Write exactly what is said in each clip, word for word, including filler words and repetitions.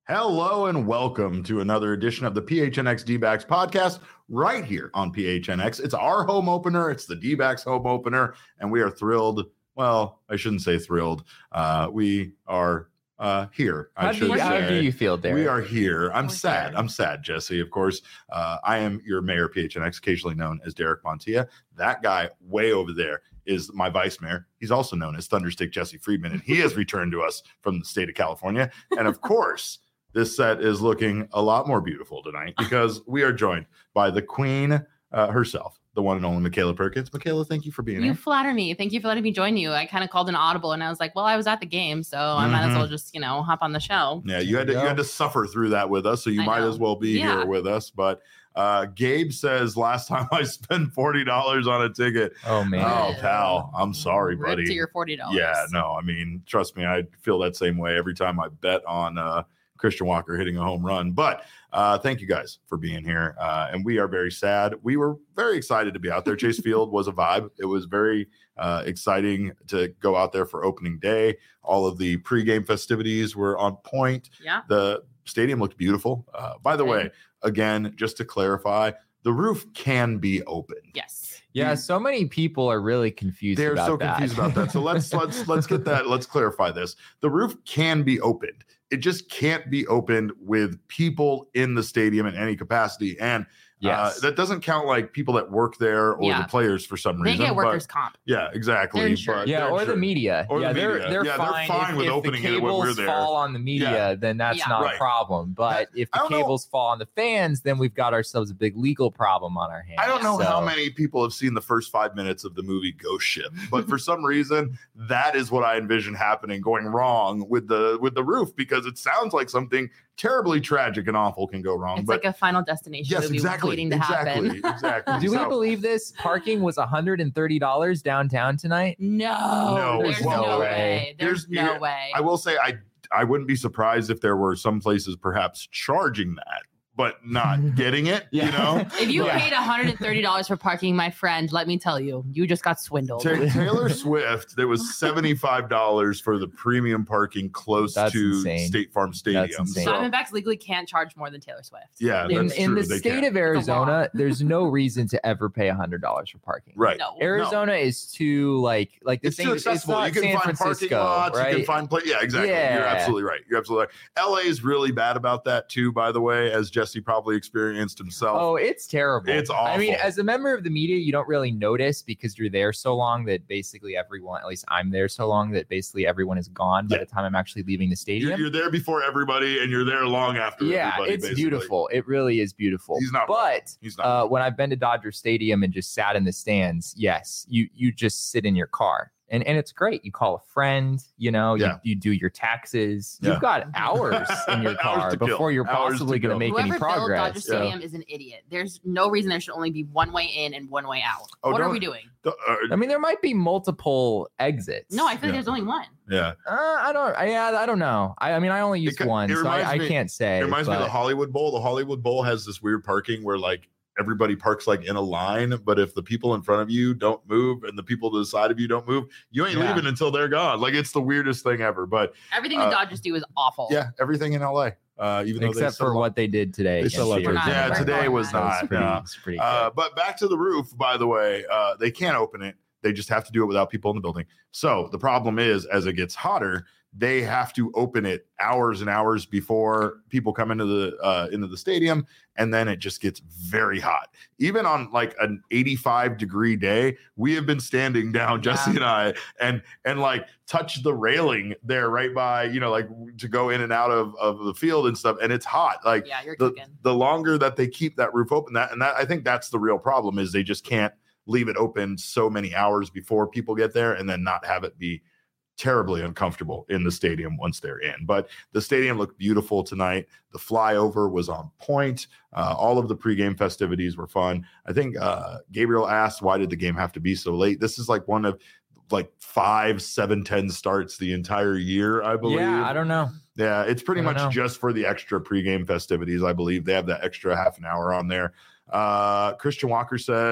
Hello and welcome to another edition of the P H N X D-backs podcast right here on P H N X. It's our home opener. It's the D-backs home opener, and we are thrilled. Well, I shouldn't say thrilled. Uh, we are uh, here. How, I do you, say. how do you feel, Derek? We are here. I'm We're sad. here. I'm sad, Jesse. Of course, uh, I am your mayor, P H N X, occasionally known as Derek Montilla. That guy way over there is my vice mayor. He's also known as Thunderstick Jesse Friedman, and he has returned to us from the state of California. And of course, this set is looking a lot more beautiful tonight because we are joined by the queen uh, herself, the one and only Michaela Perkins. Michaela, thank you for being You here. flatter me. Thank you for letting me join you. I kind of called an audible and I was like, well, I was at the game, so I might as Mhm. well just, you know, hop on the show. Yeah, you had to you had to suffer through that with us, so you I might know. as well be Yeah. here with us. But uh, Gabe says last time I spent forty dollars on a ticket. Oh man. Oh, pal, I'm sorry, Rip buddy. to your forty dollars. Yeah, no, I mean, trust me, I feel that same way every time I bet on uh, Christian Walker hitting a home run. But uh, thank you guys for being here. Uh, and we are very sad. We were very excited to be out there. Chase Field was a vibe. It was very uh, exciting to go out there for opening day. All of the pregame festivities were on point. Yeah. The stadium looked beautiful. Uh, by the way, again, just to clarify, the roof can be opened. Yes. Yeah, so many people are really confused They're about so that. confused about that. So let's let's let's get that. Let's clarify this. The roof can be opened. It just can't be opened with people in the stadium in any capacity. And Yes. uh, that doesn't count like people that work there or Yeah. the players for some They reason. get but- workers' comp. yeah, exactly. They're insured. but yeah, they're or the insured. media. Or the yeah, they're media. they're Yeah, they're fine. fine if, with if opening the it when we're cables there. fall on the media, Yeah. then that's Yeah. not Right. a problem. But if I the don't know- cables fall on the fans, then we've got ourselves a big legal problem on our hands. I don't know So- how many people have seen the first five minutes of the movie Ghost Ship, but for some reason, that is what I envision happening, going wrong with the with the roof, because it sounds like something terribly tragic and awful can go wrong. It's but like a Final Destination yes, movie exactly, waiting to exactly, happen. exactly. Do we So- believe this? Parking was one hundred thirty dollars downtown tonight. No. No, There's well, no way. way. There's Here's- no here- way. I will say I I wouldn't be surprised if there were some places perhaps charging that, but not getting it. You Yeah. know, If you Yeah. paid one hundred thirty dollars for parking, my friend, let me tell you, you just got swindled. Ta- Taylor Swift, there was seventy-five dollars for the premium parking close That's to insane. State Farm Stadium. insane. So, Diamondbacks legally can't charge more than Taylor Swift. yeah, In, that's in true. the They state can. of Arizona, there's no reason to ever pay one hundred dollars for parking. right. No. Arizona is too like like the It's thing. too It's accessible. not You can San find Francisco, parking lots. right? You can find play. Yeah, exactly. You're Yeah. absolutely right. You're absolutely right. L A is really bad about that too, by the way, as Jesse probably experienced himself. Oh, it's terrible. It's I mean, awful. as a member of the media, you don't really notice because you're there so long that basically everyone, at least I'm there so long that basically everyone is gone by Yeah. the time I'm actually leaving the you're, stadium. you're there before everybody, and you're there long after. Yeah, everybody, it's basically. beautiful. It really is beautiful. He's not wrong. But He's not. uh, when I've been to Dodger Stadium and just sat in the stands, yes, you you just sit in your car. And and it's great. You call a friend, you know, you, Yeah. you do your taxes. Yeah. You've got hours in your Hours car to kill. before you're Hours possibly to going to kill. make any Whoever built Dodger progress. So- Stadium is an idiot. There's no reason there should only be one way in and one way out. Oh, what are don't- we doing? The- uh, I mean, there might be multiple exits. No, I feel Yeah. like there's only one. yeah. Uh, I don't. I, yeah, I don't know. I, I mean, I only used ca- one, it so reminds I, I me- can't say. It reminds me of but- the Hollywood Bowl. The Hollywood Bowl has this weird parking where like everybody parks like in a line, but if the people in front of you don't move and the people to the side of you don't move, you ain't Yeah. leaving until they're gone. Like it's the weirdest thing ever. But Everything Uh, the Dodgers do is awful. yeah, everything in L A. Uh, even though they except for sell- what they did today. They against sell the up for- Arizona yeah, Cardinals. today was That not, pretty, no. it's pretty Uh, good. but back to the roof, by the way, uh, they can't open it. They just have to do it without people in the building. So the problem is, as it gets hotter, they have to open it hours and hours before people come into the uh, into the stadium, and then it just gets very hot. Even on like an eighty-five degree day, we have been standing down, Jesse Yeah. and I, and and like touch the railing there right by, you know, like to go in and out of, of the field and stuff, and it's hot. Like Yeah, you're the, cooking. the longer that they keep that roof open, that and that I think that's the real problem is they just can't leave it open so many hours before people get there and then not have it be terribly uncomfortable in the stadium once they're in. But the stadium looked beautiful tonight. The flyover was on point. Uh, all of the pregame festivities were fun. I think uh, Gabriel asked, why did the game have to be so late? This is like one of like five, seven, ten starts the entire year, I believe. Yeah, I don't know. Yeah, it's pretty I don't much know. just for the extra pregame festivities. I believe they have that extra half an hour on there. Uh, Christian Walker says,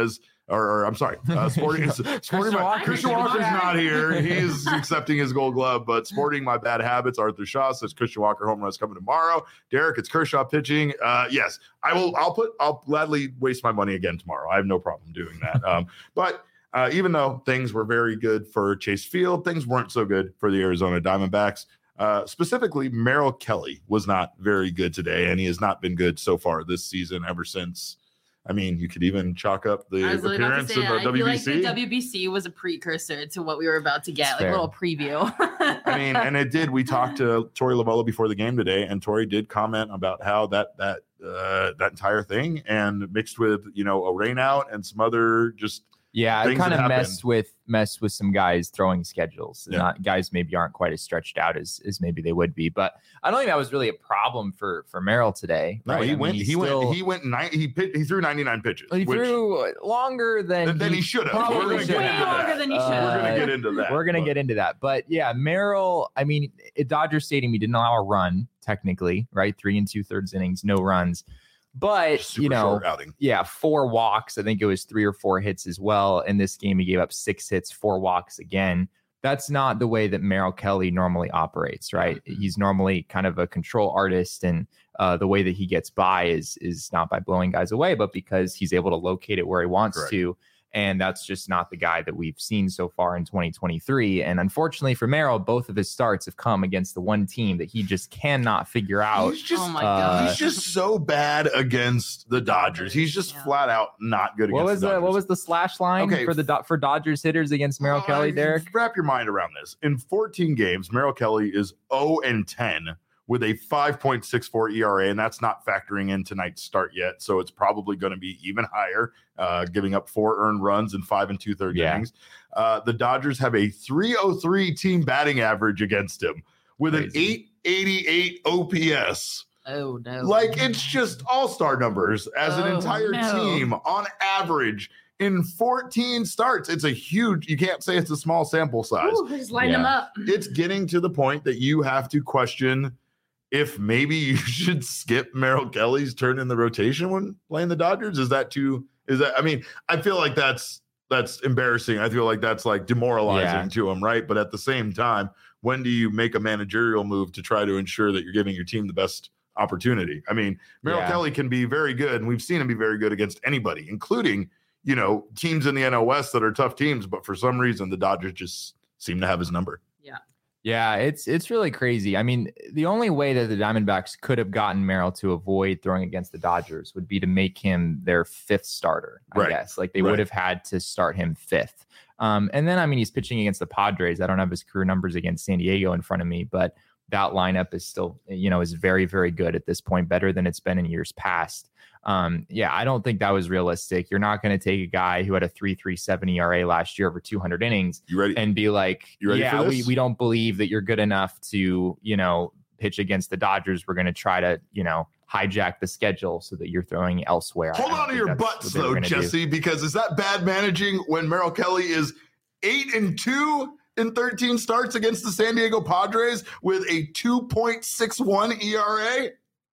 or, or I'm sorry, uh, sporting. sporting my, Walker. Christian Walker's not here. He's accepting his Gold Glove, but sporting my bad habits. Arthur Shaw says Christian Walker home runs coming tomorrow. Derek, it's Kershaw pitching. Uh, yes, I will. I'll put. I'll gladly waste my money again tomorrow. I have no problem doing that. Um, but. Uh, even though things were very good for Chase Field, things weren't so good for the Arizona Diamondbacks. Uh, specifically, Merrill Kelly was not very good today, and he has not been good so far this season ever since. I mean, you could even chalk up the appearance say, of the I W B C. feel like the W B C was a precursor to what we were about to get, That's like fair. a little preview. I mean, and it did. We talked to Tori Lavello before the game today, and Tori did comment about how that that uh, that entire thing, and mixed with you know a rain out and some other just. Yeah, it things kind that of happen. messed with messed with some guys throwing schedules. Yeah. Not guys maybe aren't quite as stretched out as as maybe they would be. But I don't think that was really a problem for for Merrill today. No, right? he I mean, went. he's He still- went. He went. Nine, he pit, he threw ninety-nine pitches. He which, threw longer than than he should have. probably We're gonna should get Way into longer that. than he should. We're Uh, gonna get into that. We're gonna but- get into that. But yeah, Merrill, I mean, at Dodger Stadium, he didn't allow a run, technically, right? Three and two thirds innings, no runs. But super you know, short outing. yeah, four walks. I think it was three or four hits as well. In this game, he gave up six hits, four walks again. That's not the way that Merrill Kelly normally operates, right? He's normally kind of a control artist, and uh, the way that he gets by is is not by blowing guys away, but because he's able to locate it where he wants Correct. to. And that's just not the guy that we've seen so far in twenty twenty-three. And unfortunately for Merrill, both of his starts have come against the one team that he just cannot figure out. He's just, Oh my Uh, god. he's just so bad against the Dodgers. He's just Yeah. flat out not good What against was the the Dodgers. what was the slash line Okay. for the Do- for Dodgers hitters against Merrill Uh, Kelly, Derek? Wrap your mind around this. In fourteen games, Merrill Kelly is oh and ten with a five point six four E R A, and that's not factoring in tonight's start yet. So it's probably going to be even higher, uh, giving up four earned runs in five and two thirds Yeah. innings. Uh, the Dodgers have a three oh three team batting average against him with an Crazy. eight eighty-eight O P S. Oh no. Like it's just all-star numbers as an Oh, entire no. team on average in fourteen starts. It's a huge, you can't say it's a small sample size. Ooh, just line them Yeah. up. It's getting to the point that you have to question if maybe you should skip Merrill Kelly's turn in the rotation when playing the Dodgers. Is that too, is that, I mean, I feel like that's, that's embarrassing. I feel like that's like demoralizing Yeah. to him, right? But at the same time, when do you make a managerial move to try to ensure that you're giving your team the best opportunity? I mean, Merrill Yeah. Kelly can be very good, and we've seen him be very good against anybody, including, you know, teams in the N L West that are tough teams, but for some reason the Dodgers just seem to have his number. Yeah, it's it's really crazy. I mean, the only way that the Diamondbacks could have gotten Merrill to avoid throwing against the Dodgers would be to make him their fifth starter, I Right. guess. Like they Right. would have had to start him fifth. Um, and then, I mean, he's pitching against the Padres. I don't have his career numbers against San Diego in front of me, but that lineup is still, you know, is very, very good at this point, better than it's been in years past. Um, yeah, I don't think that was realistic. You're not going to take a guy who had a three point three seven E R A last year over two hundred innings You ready? and be like, You ready yeah, for we, this? we don't believe that you're good enough to, you know, pitch against the Dodgers. We're going to try to, you know, hijack the schedule so that you're throwing elsewhere. I Hold don't on to think your that's butts, what they were though, gonna do. Jesse, because is that bad managing when Merrill Kelly is eight and two in thirteen starts against the San Diego Padres with a two point six one E R A?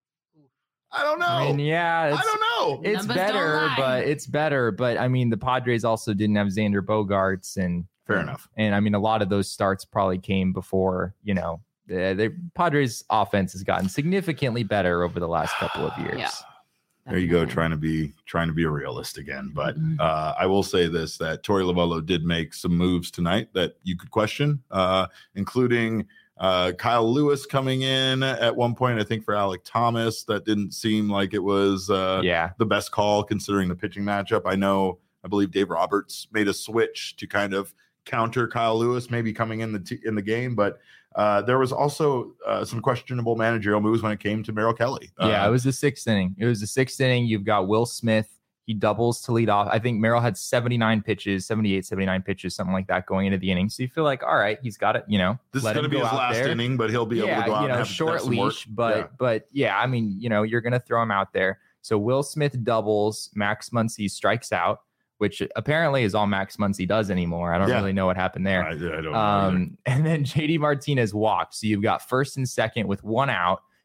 I don't know. I mean, yeah, I it's, don't know. it's Numbers don't better, lie. but it's better. But I mean, the Padres also didn't have Xander Bogaerts, and Fair enough. And I mean, a lot of those starts probably came before, you know, the, the Padres' offense has gotten significantly better over the last couple of years. Yeah. There you go, trying to be trying to be a realist again. But uh, I will say this: that Tori Lavello did make some moves tonight that you could question, uh, including uh, Kyle Lewis coming in at one point. I think for Alec Thomas, that didn't seem like it was uh, Yeah. the best call considering the pitching matchup. I know, I believe Dave Roberts made a switch to kind of counter Kyle Lewis, maybe coming in the t- in the game, but. Uh, there was also uh, some questionable managerial moves when it came to Merrill Kelly. Yeah, Uh, it was the sixth inning. It was the sixth inning. You've got Will Smith. He doubles to lead off. I think Merrill had seventy-nine pitches, seventy-eight, seventy-nine pitches, something like that going into the inning. So you feel like, all right, he's got it, you know. This is let going to him be go his out last there. inning, but he'll be able yeah, to go out you know, and have, short have some work. leash. But Yeah. but yeah, I mean, you know, you're going to throw him out there. So Will Smith doubles. Max Muncy strikes out, which apparently is all Max Muncy does anymore. I don't Yeah. really know what happened there. I, I don't know either. Um, and then J D Martinez walks. So you've got first and second with one out.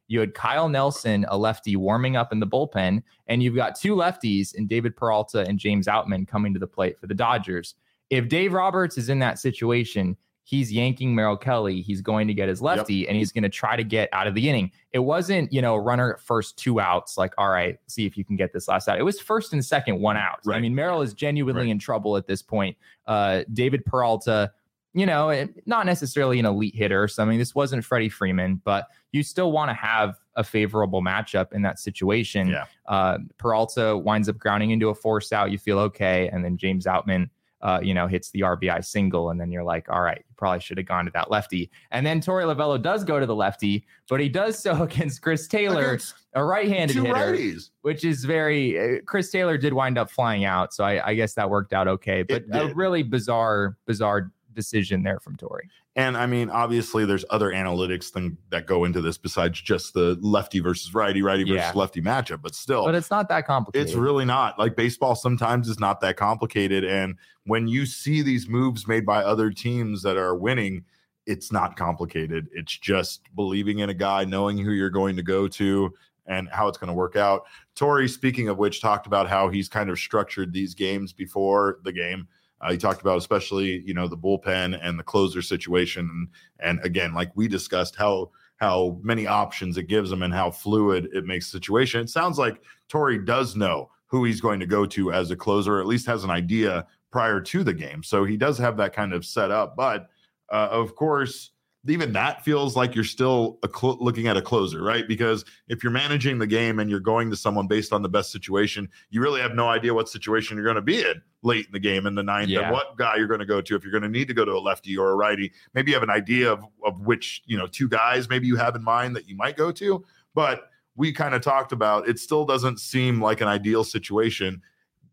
You had Kyle Nelson, a lefty, warming up in the bullpen, and you've got two lefties in David Peralta and James Outman coming to the plate for the Dodgers. If Dave Roberts is in that situation, he's yanking Merrill Kelly. He's going to get his lefty, yep. and he's going to try to get out of the inning. It wasn't, you know, runner at first, two outs, like, all right, see if you can get this last out. It was first and second, one out. Right. I mean, Merrill is genuinely right. in trouble at this point. Uh, David Peralta, you know, not necessarily an elite hitter or something. This wasn't Freddie Freeman, but you still want to have a favorable matchup in that situation. Yeah. Uh, Peralta winds up grounding into a force out. You feel okay. And then James Outman, Uh, you know, hits the R B I single, and then you're like, all right, you probably should have gone to that lefty. And then Torey Lovullo does go to the lefty, but he does so against Chris Taylor, against a right-handed hitter, righties. Which is very, uh, Chris Taylor did wind up flying out, so I, I guess that worked out okay. But a really bizarre, bizarre decision there from Torey. And I mean, obviously, there's other analytics thing that go into this besides just the lefty versus righty, righty versus yeah. lefty matchup. But still, but it's not that complicated. It's really not. Like baseball sometimes is not that complicated. And when you see these moves made by other teams that are winning, it's not complicated. It's just believing in a guy, knowing who you're going to go to, and how it's going to work out. Torey, speaking of which, talked about how he's kind of structured these games before the game. Uh, he talked about especially, you know, the bullpen and the closer situation. And, and again, like we discussed, how how many options it gives him and how fluid it makes the situation. It sounds like Torey does know who he's going to go to as a closer, or at least has an idea prior to the game. So he does have that kind of set up. But, uh, of course, even that feels like you're still a cl- looking at a closer, right? Because if you're managing the game and you're going to someone based on the best situation, you really have no idea what situation you're going to be in late in the game in the ninth, yeah. and what guy you're going to go to. If you're going to need to go to a lefty or a righty, maybe you have an idea of, of which, you know, two guys maybe you have in mind that you might go to. But we kind of talked about, it still doesn't seem like an ideal situation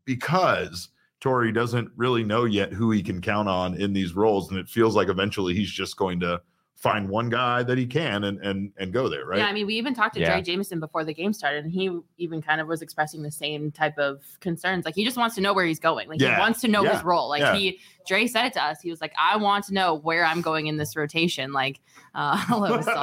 because Torey doesn't really know yet who he can count on in these roles. And it feels like eventually he's just going to find one guy that he can and and and go there, right? Yeah, I mean, we even talked to yeah. Dre Jameson before the game started, and he even kind of was expressing the same type of concerns. Like, he just wants to know where he's going. Like, yeah. he wants to know yeah. his role. Like, yeah. he, Dre said it to us. He was like, I want to know where I'm going in this rotation. Like, uh, hello, Saul.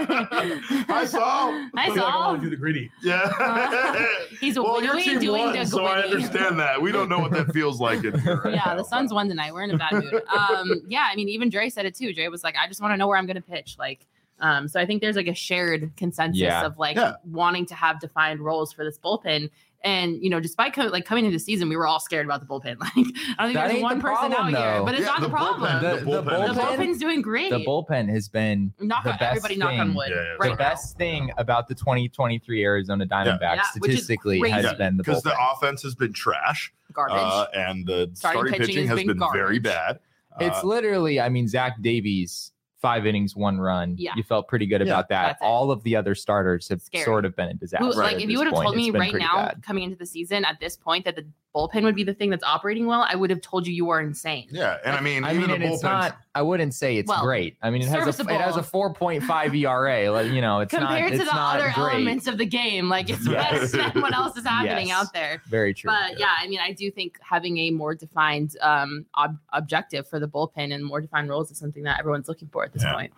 Hi, Saul. Hi, Saul. I want to do the gritty. Yeah. Uh, he's well, your team doing won, the so I understand that. We don't know what that feels like. In here right yeah, now, the Suns but. won tonight. We're in a bad mood. Um, yeah, I mean, even Dre said it too. Dre was like, I just want to know where I'm going to pitch. Like, Um, so I think there's like a shared consensus yeah. of like yeah. wanting to have defined roles for this bullpen. And, you know, despite co- like coming into the season, we were all scared about the bullpen. Like, I don't think that there's one the person problem, out though. here, but it's yeah, not the, the problem. Bullpen, The, the, the, bullpen, the bullpen's doing great. The bullpen has been knock the on, best everybody thing. knock on wood. Yeah, yeah, right the now. best thing about the twenty twenty-three Arizona Diamondbacks Yeah, which is statistically has crazy. been the because bullpen. the offense has been trash, Garbage. uh, and the Starting starting, pitching pitching has has been been, garbage. very bad. It's Uh, literally, I mean, Zach Davies, five innings, one run. Yeah. You felt pretty good Yeah, about that. that's it. All of the other starters have Scary. sort of been a disaster. Who, Right. like, at if you this would have point. told me It's been right pretty now, bad. coming into the season at this point, that the bullpen would be the thing that's operating well, I would have told you you were insane. yeah, and I mean, I even mean, the and it's bullpen's- not. I wouldn't say it's Well, great. I mean, it has a serviceable. it has a four point five E R A. Like, you know, it's Compared not. to It's the not other great. elements of the game, like it's Yes. better than what else is happening Yes. out there. Very true. But yeah, I mean, I do think having a more defined um, ob- objective for the bullpen and more defined roles is something that everyone's looking for at this Yeah. point.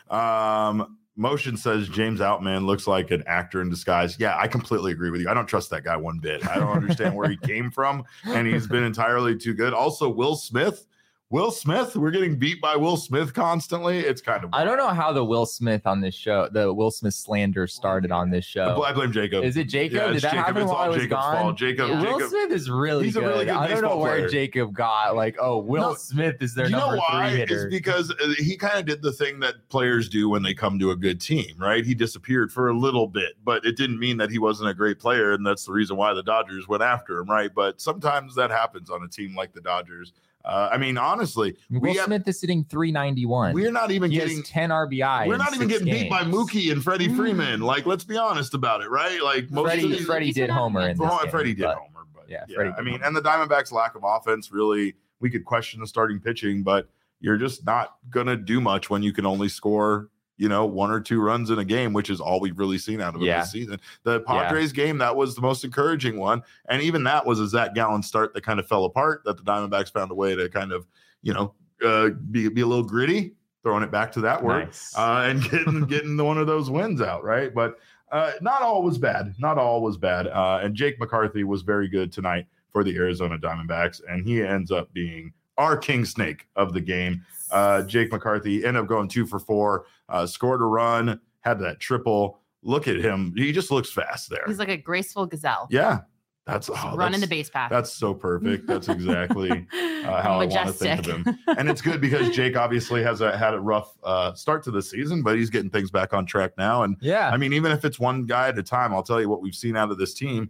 Um, Motion says James Outman looks like an actor in disguise. Yeah, I completely agree with you. I don't trust that guy one bit. I don't understand where he came from, and he's been entirely too good. Also, Will Smith. Will Smith, we're getting beat by Will Smith constantly. It's kind of. I don't know how the Will Smith on this show, the Will Smith slander started on this show. I blame Jacob. Is it Jacob? Yeah, Did it's that Jacob. happen It's while I all was Jacob's gone? fault. Jacob. Yeah. Will Jacob. Smith is really He's a good. really good I don't know baseball where player. Jacob got like, oh, Will No, Smith is their you know number why? three It's hitter. because uh, he kind of did the thing that players do when they come to a good team, right? He disappeared for a little bit, but it didn't mean that he wasn't a great player, and that's the reason why the Dodgers went after him, right? But sometimes that happens on a team like the Dodgers. Uh, I mean, honestly, Will we have, Smith is sitting three ninety-one. we're not even he getting has ten R B I. we're in not even six getting beat by games. Mookie and Freddie Freeman. Like, let's be honest about it, right? Like most Freddie, of these, Freddie He's did been homer in this oh, game, Freddie did but- homer, but yeah, yeah, Freddie I did mean, homer. and the Diamondbacks' lack of offense really, we could question the starting pitching, but you're just not gonna do much when you can only score, you know, one or two runs in a game, which is all we've really seen out of him Yeah. this season. The Padres game, that was the most encouraging one, and even that was a Zach Gallen start that kind of fell apart. That the Diamondbacks found a way to kind of, you know, uh, be be a little gritty. throwing it back to that word Nice. uh, and getting getting one of those wins out, right? But uh, not all was bad. Not all was bad. Uh, and Jake McCarthy was very good tonight for the Arizona Diamondbacks, and he ends up being our king snake of the game. Uh, Jake McCarthy ended up going two for four, uh, scored a run, had that triple. Look at him. He just looks fast there. He's like a graceful gazelle. Yeah. That's oh, running that's, the base path. That's so perfect. That's exactly uh, how Majestic. I want to think of him. And it's good because Jake obviously has a, had a rough uh, start to the season, but he's getting things back on track now. And yeah, I mean, even if it's one guy at a time, I'll tell you what we've seen out of this team.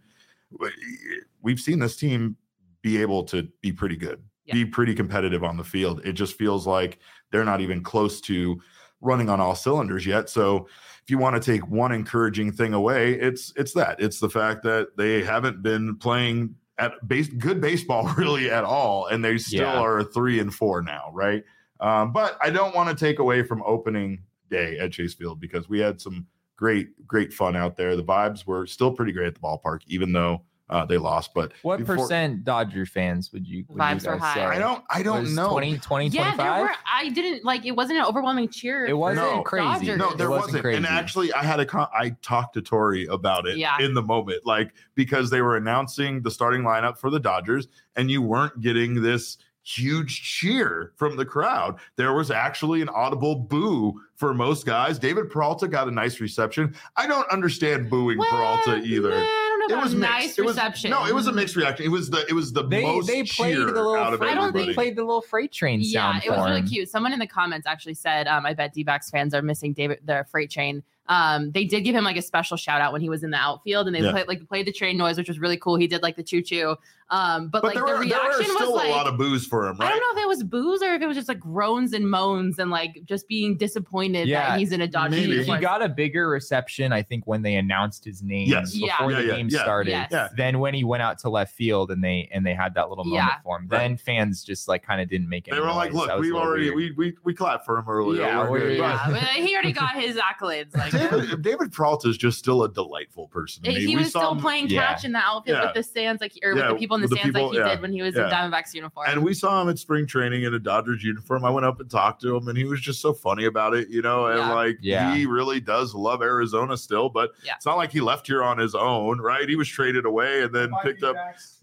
We've seen this team be able to be pretty good, yeah. be pretty competitive on the field. It just feels like they're not even close to running on all cylinders yet. So if you want to take one encouraging thing away, it's it's that. It's the fact that they haven't been playing at base good baseball really at all, and they still yeah. are three and four now, right? Um, but I don't want to take away from opening day at Chase Field because we had some great, great fun out there. The vibes were still pretty great at the ballpark, even though uh, they lost. But what before, percent Dodger fans would you? Would vibes you were high. Say? I don't. I don't was know. twenty, twenty, yeah, twenty-five? there were. I didn't like. It wasn't an overwhelming cheer. It wasn't no, crazy. Dodgers. No, there it wasn't. wasn't crazy. And actually, I had a. Con- I talked to Tori about it yeah. in the moment, like because they were announcing the starting lineup for the Dodgers, and you weren't getting this huge cheer from the crowd. There was actually an audible boo for most guys. David Peralta got a nice reception. I don't understand booing well, Peralta either. Yeah, I don't know it was a mixed. nice it was, reception. No, it was a mixed reaction. It was the it was the they, most they played cheer the little out of freight, everybody. They played the little freight train sound. Yeah, it was for really him. cute. Someone in the comments actually said, um, "I bet D-backs fans are missing David the freight train." Um, they did give him like a special shout out when he was in the outfield, and they yeah. played like played the train noise, which was really cool. He did like the choo choo. Um, but, but like there the were, reaction there were still was like a lot of boos for him, right? I don't know if it was boos or if it was just like groans and moans and like just being disappointed yeah, that he's in a Dodger maybe. uniform. He got a bigger reception, I think, when they announced his name Yes. before yeah. the Yeah, game yeah, started. Yes. Yeah. Then when he went out to left field and they and they had that little moment Yeah. for him, Right. then fans just like kind of didn't make it. They were like, noise. "Look, That was a we've little already weird. we we we clapped for him earlier." Yeah, We're we're- good." yeah, But- but he already got his accolades. Like David, David Peralta is just still a delightful person. to me. he We was saw still him- playing yeah. catch in the outfield Yeah. with the stands, like or Yeah, with the people in the with the stands, people, like he yeah. did when he was Yeah. in Diamondbacks uniform. And we saw him at spring training in a Dodgers uniform. I went up and talked to him, and he was just so funny about it, you know. And Yeah. like, Yeah. he really does love Arizona still, but Yeah. it's not like he left here on his own, right? He was traded away and then picked up.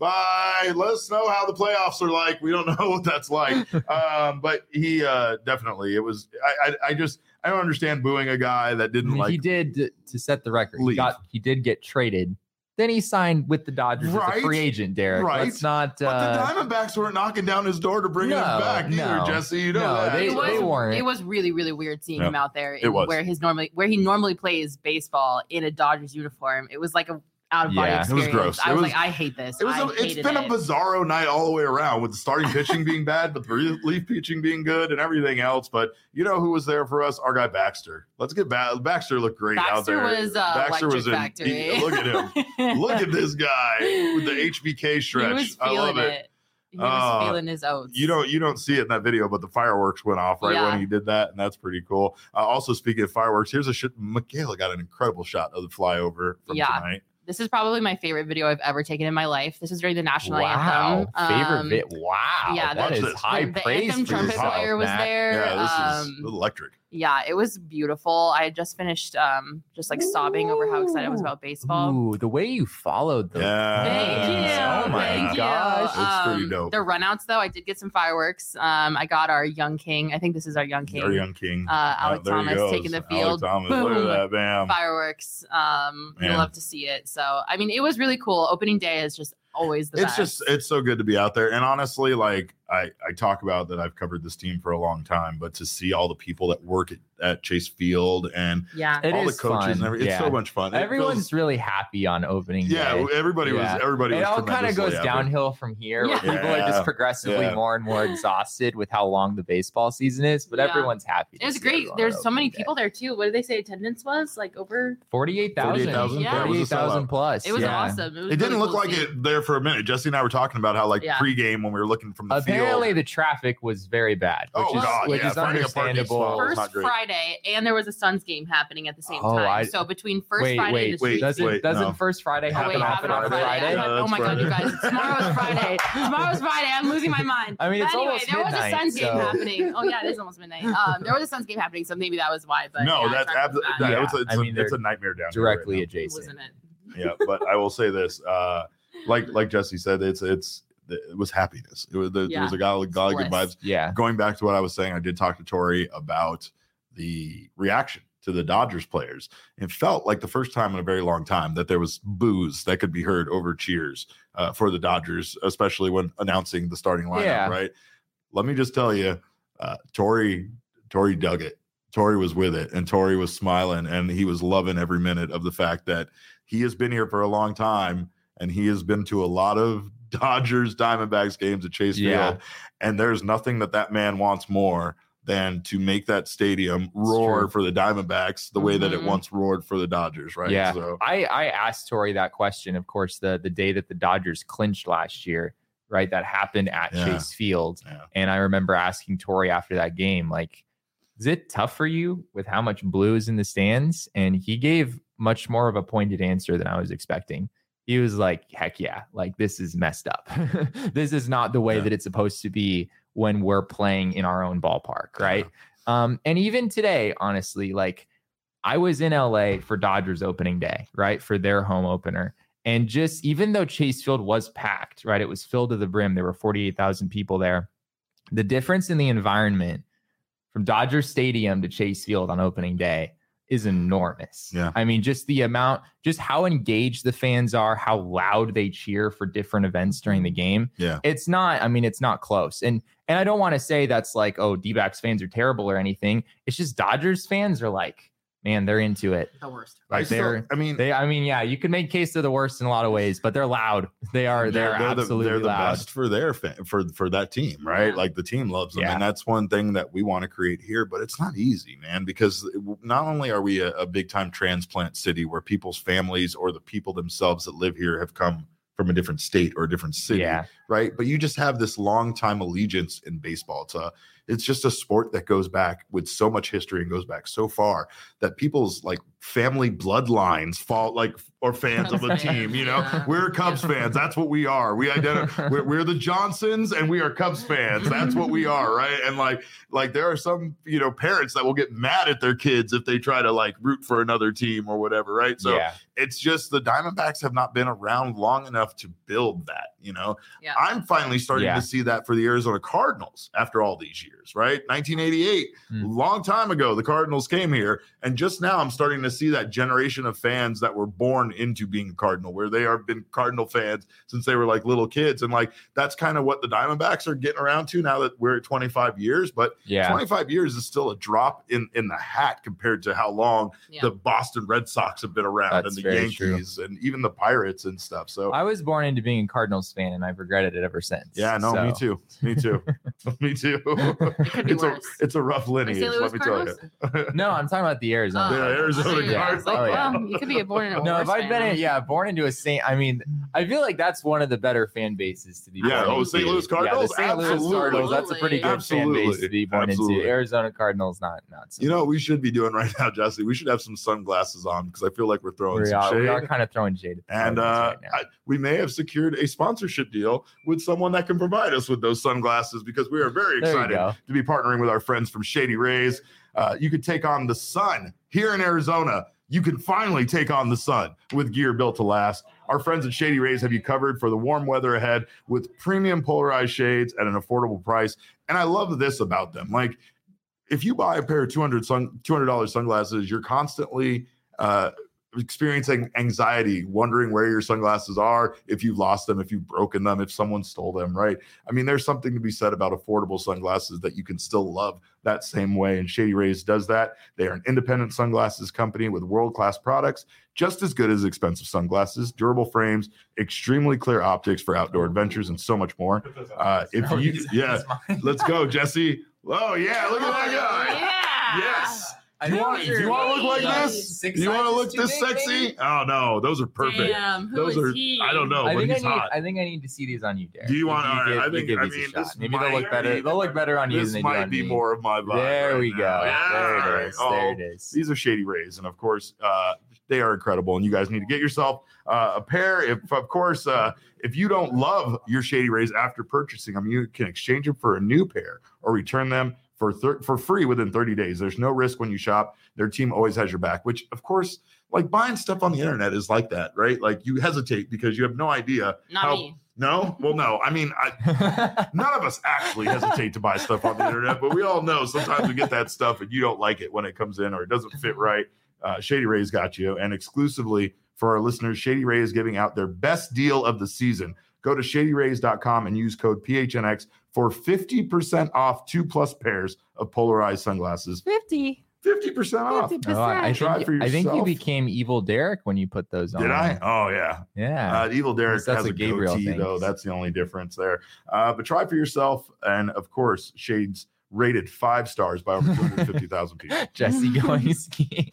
Bye. Let us know how the playoffs are like. We don't know what that's like. um, but he uh, definitely. It was. I, I. I just. I don't understand booing a guy that I didn't mean, like. he did to, to set the record. He leave. got he did get traded. Then he signed with the Dodgers as Right. a free agent, Derek. Right. Let's not. But Uh, the Diamondbacks weren't knocking down his door to bring No, him back either, no. Jesse. You know No, that. they- it was, they weren't. It was really, really weird seeing Yeah. him out there It in was. where his normally where he normally plays baseball in a Dodgers uniform. It was like a out of body Yeah. It was experience. gross. I It was, was- like, I hate this. It was. I A, it's hated been it. a bizarro night all the way around, with the starting pitching being bad, but the relief pitching being good, and everything else. But you know who was there for us? Our guy Baxter. Let's get back. Baxter looked great out Baxter there. was uh, Baxter electric was in. factory. he- look at him. Look at this guy with the H B K He stretch. was I love feeling it. it. He was Uh, feeling his oats. You don't you don't see it in that video, but the fireworks went off right Yeah. when he did that, and that's pretty cool. Uh, also, speaking of fireworks, here's a shot. Michaela got an incredible shot of the flyover from Yeah. tonight. This is probably my favorite video I've ever taken in my life. This is during the national wow, anthem. favorite Um, bit. Wow, yeah, that Watch is this. high the praise anthem for trumpet yourself, player was Matt. there. Yeah, this um, is electric. Yeah, it was beautiful. I had just finished um, just like sobbing over how excited I was about baseball. Ooh, the way you followed the Yeah. Thank you. Oh my Thank gosh. you. It's pretty Um, dope. The runouts, though, I did get some fireworks. Um, I got our young king. I think this is our young king. Our young king. Uh, Alec there he Thomas goes. taking the Alec field. Thomas, look Boom. at that, bam. Fireworks. Um, you Man. love to see it. So, I mean, it was really cool. Opening day is just always the It's best. just it's so good to be out there. And honestly, like I, I talk about that I've covered this team for a long time, but to see all the people that work at, at Chase Field and yeah. It all the is coaches fun. and everything, it's Yeah. so much fun. It Everyone's feels- really happy on opening yeah, day. everybody Yeah. was everybody It was all kind of tremendously goes happy. downhill from here, where Yeah. people are Yeah. just progressively Yeah. more and more exhausted with how long the baseball season is. But Yeah. everyone's happy. to It was see great. everyone There's on so many opening day. people there too. What did they say attendance was? Like over forty-eight thousand. forty-eight thousand. Yeah. It was a forty-eight thousand sellout. plus. it was yeah. awesome. It, was It didn't really look cool like to see. it there for a minute. Jesse and I were talking about how like Yeah. pregame when we were looking from the Apparently apparently the traffic was very bad, which oh, is, God, which yeah. is Finding a parking understandable. spot was First Friday, and there was a Suns game happening at the same Oh, time. I- so between first Wait, Friday wait, and the wait, street doesn't wait, doesn't no. first Friday Oh, happen wait, on happened on Friday? Friday. No, oh that's my God, you Friday. guys! Tomorrow's Friday. Tomorrow's Friday. I'm losing my mind. I mean, But it's anyway, almost there was midnight, a Suns game so- happening. Oh yeah, it is almost midnight. Um, there was a Suns game happening, so maybe that was why. But no, yeah, that's traffic was absolutely. bad. Yeah, It's, a, it's, I a, mean, it's a they're nightmare down Directly here adjacent. Wasn't it? right now. Yeah, but I will say this. Uh, like like Jesse said, it's it's it was happiness. It was, there Yeah. was a golly, golly good Bliss. vibes. Yeah. Going back to what I was saying, I did talk to Tori about the reaction to the Dodgers players. It felt like the first time in a very long time that there was boos that could be heard over cheers uh, for the Dodgers, especially when announcing the starting lineup. Yeah. Right. Let me just tell you, uh, Tori Tori dug it. Tori was with it, and Tori was smiling, and he was loving every minute of the fact that he has been here for a long time, and he has been to a lot of Dodgers Diamondbacks games at Chase Yeah. Field, and there's nothing that that man wants more than to make that stadium roar true. for the Diamondbacks the way that it Mhm. once roared for the Dodgers, right? Yeah. So, I, I asked Tori that question, of course, the the day that the Dodgers clinched last year, right? That happened at Yeah. Chase Field. yeah. And I remember asking Tori after that game, like, is it tough for you with how much blue is in the stands? And he gave much more of a pointed answer than I was expecting. He was like, heck yeah, like this is messed up. This is not the way Yeah. that it's supposed to be when we're playing in our own ballpark, right? Um, and even today, honestly, like I was in L A for Dodgers opening day, right? For their home opener. And just even though Chase Field was packed, right? It was filled to the brim. There were forty-eight thousand people there. The difference in the environment from Dodger Stadium to Chase Field on opening day is enormous. Yeah. I mean, just the amount, just how engaged the fans are, how loud they cheer for different events during the game. Yeah. It's not, I mean, it's not close. And and I don't want to say that's like, oh, D-backs fans are terrible or anything. It's just Dodgers fans are like, man, they're into it. The worst. I Like still- they're, I mean, they, I mean, yeah, you can make case they're the worst in a lot of ways, but they're loud. They are, they're, they're absolutely the, they're the loud. best for their fan, for for that team, right? Yeah. Like the team loves them, Yeah. and that's one thing that we want to create here. But it's not easy, man, because not only are we a, a big time transplant city where people's families or the people themselves that live here have come from a different state or a different city, Yeah. right? But you just have this long time allegiance in baseball. It's a, it's just a sport that goes back with so much history and goes back so far that people's like family bloodlines fall like or fans of the Cubs team. fans, You know, yeah. we're Cubs Yeah. fans. That's what we are. We identify. we're, we're the Johnsons, and we are Cubs fans. That's what we are, right? And like, like there are some you know parents that will get mad at their kids if they try to like root for another team or whatever, right? So yeah. it's just the Diamondbacks have not been around long enough to build that. You know, Yeah. I'm finally starting Yeah. to see that for the Arizona Cardinals after all these years, right? nineteen eighty-eight, Hmm. long time ago, the Cardinals came here. And just now I'm starting to see that generation of fans that were born into being a Cardinal, where they have been Cardinal fans since they were like little kids. And like, that's kind of what the Diamondbacks are getting around to now that we're at twenty-five years. But Yeah. twenty-five years is still a drop in, in the hat compared to how long Yeah. the Boston Red Sox have been around That's and the very true. Yankees and even the Pirates and stuff. So I was born into being a Cardinals fan and I've regretted it ever since. yeah, no, me So- too. Me too. me too. could be it's a worse. it's a rough lineage, Saint Louis let me tell you. No, I'm talking about the Arizona. Oh, Yeah, Cardinals. Arizona yeah. Cardinals. Like, Oh, yeah. well, you could be born in a No, worse if I'd been, family. in, yeah, born into a Saint, I mean, I feel like that's one of the better fan bases to be Yeah, born oh, into. Saint Louis Cardinals? Yeah, the Saint Louis Absolutely. Cardinals, that's a pretty good Absolutely. fan base to be born Absolutely. into. Arizona Cardinals, not, not so You know what we should be doing right now, Jesse? We should have some sunglasses on because I feel like we're throwing we some are, shade. we are kind of throwing shade at the And Cardinals uh, right now. I, we may have secured a sponsorship deal with someone that can provide us with those sunglasses because we are very There you excited go. to be partnering with our friends from Shady Rays. Uh, you could take on the sun here in Arizona. You can finally take on the sun with gear built to last. Our friends at Shady Rays have you covered for the warm weather ahead with premium polarized shades at an affordable price. And I love this about them. Like, if you buy a pair of two hundred sun, two hundred dollars sunglasses, you're constantly uh, experiencing anxiety, wondering where your sunglasses are, if you've lost them, if you've broken them, if someone stole them, right? I mean, there's something to be said about affordable sunglasses that you can still love that same way. And Shady Rays does that. They are an independent sunglasses company with world-class products, just as good as expensive sunglasses, durable frames, extremely clear optics for outdoor adventures, and so much more. Uh, if you, yeah, let's go, Jesse. Oh, yeah, look at that guy. Yeah. Yes. Do you want, do you want to look like this? Six Do you want to look this big, sexy? maybe? Oh no, those are perfect. Damn, who those is are. he? I don't know, I but think I he's need. hot. I think I need to see these on you, Derek. Do you want? All right, give, I think. give I these a mean, shot. this Maybe might they'll look better. be- They'll look better on you This than they do might on be me. more of my vibe. There right we now. go. Yeah, There all it right. is. Oh, There it is. These are Shady Rays, and of course, uh, they are incredible. And you guys need to get yourself uh, a pair. If, of course, uh, if you don't love your Shady Rays after purchasing them, you can exchange them for a new pair or return them for thir- for free within thirty days. There's no risk when you shop. Their team always has your back, which, of course, like buying stuff on the internet is like that, right? Like you hesitate because you have no idea. Not how, me. No? Well, no. I mean, I, none of us actually hesitate to buy stuff on the internet, but we all know sometimes we get that stuff and you don't like it when it comes in or it doesn't fit right. Uh, Shady Rays got you. And exclusively for our listeners, Shady Ray is giving out their best deal of the season. Go to shady rays dot com and use code P H N X for fifty percent off two plus pairs of polarized sunglasses. fifty. fifty percent off. fifty percent. Oh, I, Try think, for I think you yourself. became Evil Derek when you put those on. Did I? Oh, yeah. Yeah. Uh, Evil Derek That's has a a Gabriel goatee, thing. though. That's the only difference there. Uh, but try for yourself. And, of course, Shades rated five stars by over two hundred fifty thousand people. Jesse going skiing.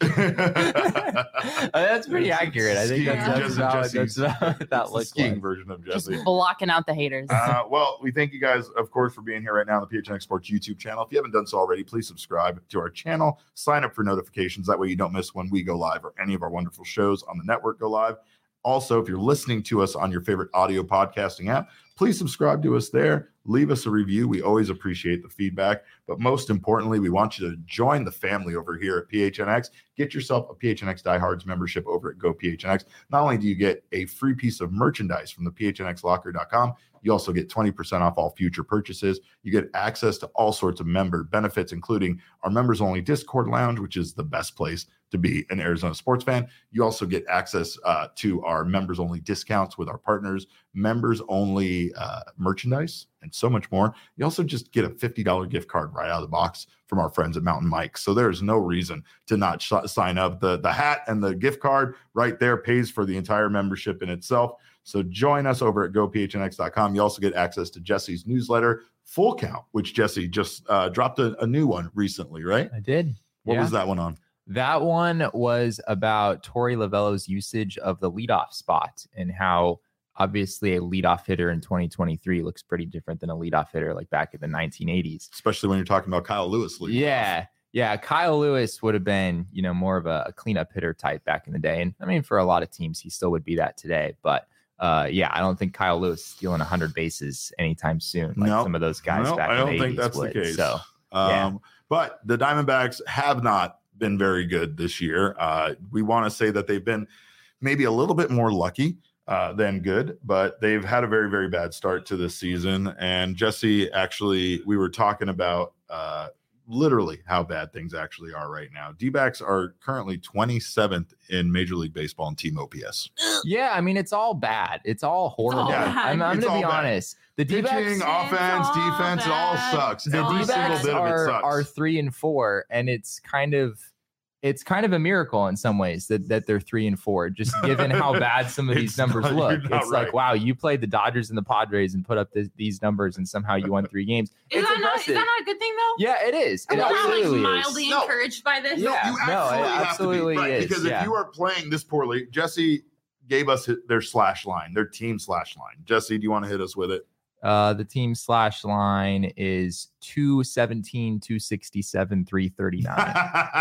Uh, that's pretty accurate. I think Skiing, that's, that's, Jesse- about, Jesse's- that's about what It's that the looks skiing like. version of Just Jesse. blocking out the haters. Uh, well, we thank you guys, of course, for being here right now on the P H N X Sports YouTube channel. If you haven't done so already, please subscribe to our channel. Sign up for notifications. That way you don't miss when we go live or any of our wonderful shows on the network go live. Also, if you're listening to us on your favorite audio podcasting app, please subscribe to us there. Leave us a review. We always appreciate the feedback. But most importantly, we want you to join the family over here at P H N X. Get yourself a P H N X Diehards membership over at Go P H N X. Not only do you get a free piece of merchandise from the P H N X locker dot com, you also get twenty percent off all future purchases. You get access to all sorts of member benefits, including our members only Discord lounge, which is the best place to be an Arizona sports fan. You also get access uh, to our members only discounts with our partners, members only uh, merchandise, and so much more. You also just get a fifty dollars gift card right out of the box from our friends at Mountain Mike. So there's no reason to not sh- sign up. The, the hat and the gift card right there pays for the entire membership in itself. So join us over at Go P H N X dot com. You also get access to Jesse's newsletter, Full Count, which Jesse just uh, dropped a, a new one recently, right? I did. What Yeah. was that one on? That one was about Torey Lovello's usage of the leadoff spot and how obviously a leadoff hitter in twenty twenty-three looks pretty different than a leadoff hitter like back in the nineteen eighties. Especially when you're talking about Kyle Lewis. leading Yeah. off. Yeah. Kyle Lewis would have been, you know, more of a, a cleanup hitter type back in the day. And I mean, for a lot of teams, he still would be that today. But uh, yeah, I don't think Kyle Lewis is stealing one hundred bases anytime soon. Like No. some of those guys No, back I in don't the think eighties that's would. the case. So Um, Yeah. But the Diamondbacks have not been very good this year. Uh, we want to say that they've been maybe a little bit more lucky uh, than good, but they've had a very, very bad start to this season. And Jesse, actually, we were talking about uh, literally how bad things actually are right now. D-backs are currently twenty-seventh in Major League Baseball in team O P S. yeah, I mean, it's all bad. It's all horrible. all Yeah, I'm, I'm it's going to be all bad. honest. The Pitching, D-backs, offense, all defense, it all bad. sucks. the Every single D-backs bit of it are, sucks. are three and four, and it's kind of it's kind of a miracle in some ways that that they're three and four, just given how bad some of these It's numbers not- look. you're It's not like, right. wow, you played the Dodgers and the Padres and put up this, these numbers, and somehow you won three games. Is it's that, not, is impressive. that not a good thing though? Yeah, it is. It Am I not, like absolutely mildly is. No. encouraged by this? Yeah. you no, absolutely, it have absolutely to be, right? is, Because yeah. if you are playing this poorly, Jesse gave us hit- their slash line, their team slash line. Jesse, do you want to hit us with it? Uh, the team slash line is two seventeen, two sixty-seven, three thirty-nine.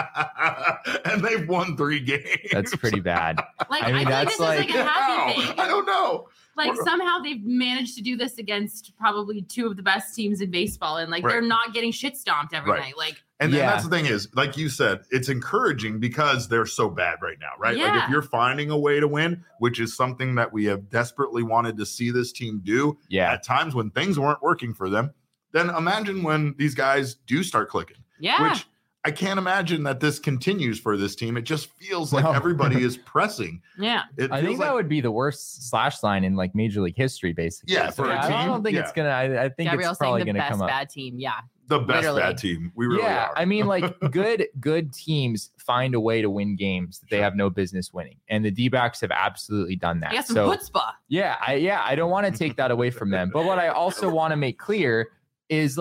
And they've won three games. That's pretty bad. Like I I, mean, feel like that's this is like a How? happy thing. I don't know. Like We're- somehow they've managed to do this against probably two of the best teams in baseball, and like Right. they're not getting shit stomped every Right. night. Like And then Yeah. that's the thing is, like you said, it's encouraging because they're so bad right now, right? Like Yeah. if you're finding a way to win, which is something that we have desperately wanted to see this team do Yeah. at times when things weren't working for them, then imagine when these guys do start clicking, yeah, which I can't imagine that this continues for this team. It just feels like No. everybody is pressing. yeah. It I feels think like, that would be the worst slash line in like Major League history, basically. Yeah, for a I team, don't think yeah. it's gonna. I, I think Gabriel's it's probably saying the gonna best come up. bad team. Yeah, the best literally. bad team. We really yeah, are. I mean, like good good teams find a way to win games that they Sure. have no business winning, and the D-backs have absolutely done that. I got some So chutzpah. yeah, I yeah, I don't want to take that away from them, but what I also want to make clear is like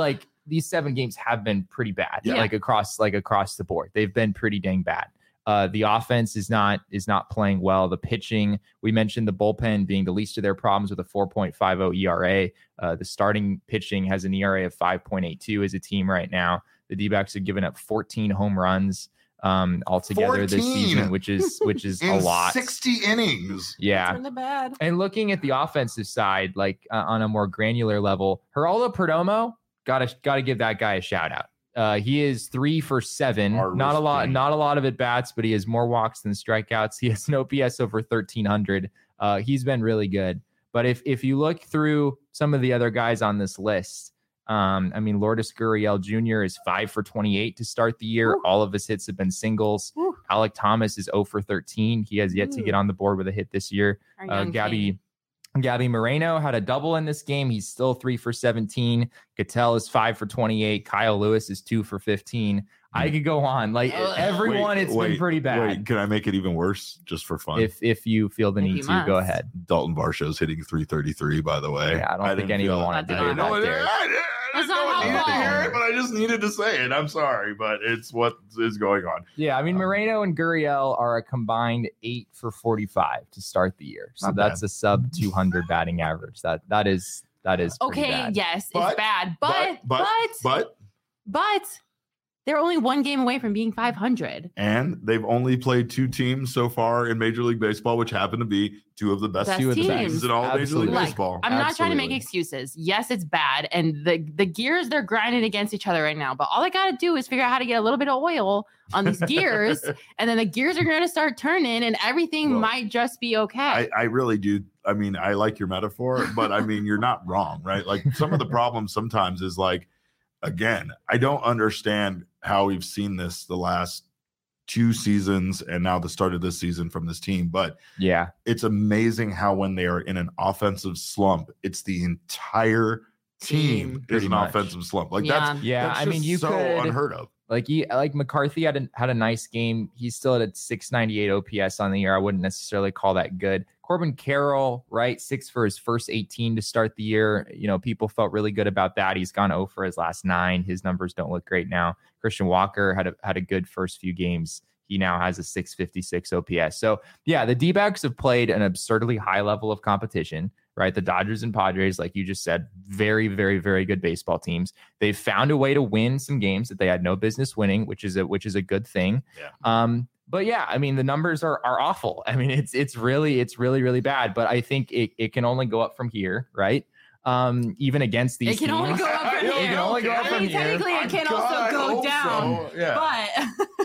these seven games have been pretty bad, yeah. like across like across the board. They've been pretty dang bad. Uh, the offense is not is not playing well. The pitching, we mentioned the bullpen being the least of their problems with a four point five oh E R A. Uh, the starting pitching has an E R A of five point eight two as a team right now. The D-backs have given up fourteen home runs um, altogether this season, which is which is a lot. sixty innings. Yeah. That's really bad. And looking at the offensive side, like uh, on a more granular level, Geraldo Perdomo, gotta gotta give that guy a shout out. Uh, he is three for seven. Our not a lot, thing. not a lot of at bats, but he has more walks than strikeouts. He has an O P S over thirteen hundred. Uh, he's been really good. But if if you look through some of the other guys on this list, um, I mean, Lourdes Gurriel Junior is five for twenty-eight to start the year. Ooh. All of his hits have been singles. Ooh. Alec Thomas is zero for thirteen. He has yet Ooh. to get on the board with a hit this year. Uh, Gabby. Gabby Moreno had a double in this game. He's still three for seventeen. Gattel is five for twenty-eight. Kyle Lewis is two for fifteen. I could go on. Like uh, everyone, wait, it's wait, been pretty bad. Wait, can I make it even worse just for fun? If if you feel the if need to, must. go ahead. Dalton Varsho's hitting three thirty-three, by the way. Yeah, I don't I think anyone wanted to hear that. No, there. I, I didn't know what needed to hear it, but I just needed to say it. I'm sorry, but it's what is going on. Yeah, I mean, um, Moreno and Gurriel are a combined eight for forty-five to start the year. So that's bad. A sub two hundred batting average. That That is that is okay, bad. yes, but, it's bad. But, but, but, but, but, they're only one game away from being five hundred. And they've only played two teams so far in Major League Baseball, which happen to be two of the best, best two of the teams. teams in all Absolutely. Major League like, Baseball. I'm Absolutely. not trying to make excuses. Yes, it's bad. And the, the gears, they're grinding against each other right now. But all I got to do is figure out how to get a little bit of oil on these gears. And then the gears are going to start turning and everything well, might just be okay. I, I really do. I mean, I like your metaphor, but I mean, you're not wrong, right? Like some of the problems sometimes is like, again, I don't understand how we've seen this the last two seasons and now the start of this season from this team. But yeah, it's amazing how when they are in an offensive slump, it's the entire team, team is an much. offensive slump. Like yeah. that's yeah. that's I mean, you so could, unheard of. Like he, like McCarthy had a, had a nice game. He's still at a six ninety-eight O P S on the year. I wouldn't necessarily call that good. Corbin Carroll, right? Six for his first eighteen to start the year. You know, people felt really good about that. He's gone zero for his last nine. His numbers don't look great now. Christian Walker had a, had a good first few games. He now has a six fifty-six O P S. So yeah, the D-backs have played an absurdly high level of competition, right? The Dodgers and Padres, like you just said, very, very, very good baseball teams. They've found a way to win some games that they had no business winning, which is a, which is a good thing. Yeah. Um, But yeah, I mean, the numbers are are awful. I mean, it's it's really, it's really, really bad. But I think it, it can only go up from here, right? Um, even against these It can teams. only go up from It here. can only go up I from mean, here. technically, it can God, also go down. so. Yeah. But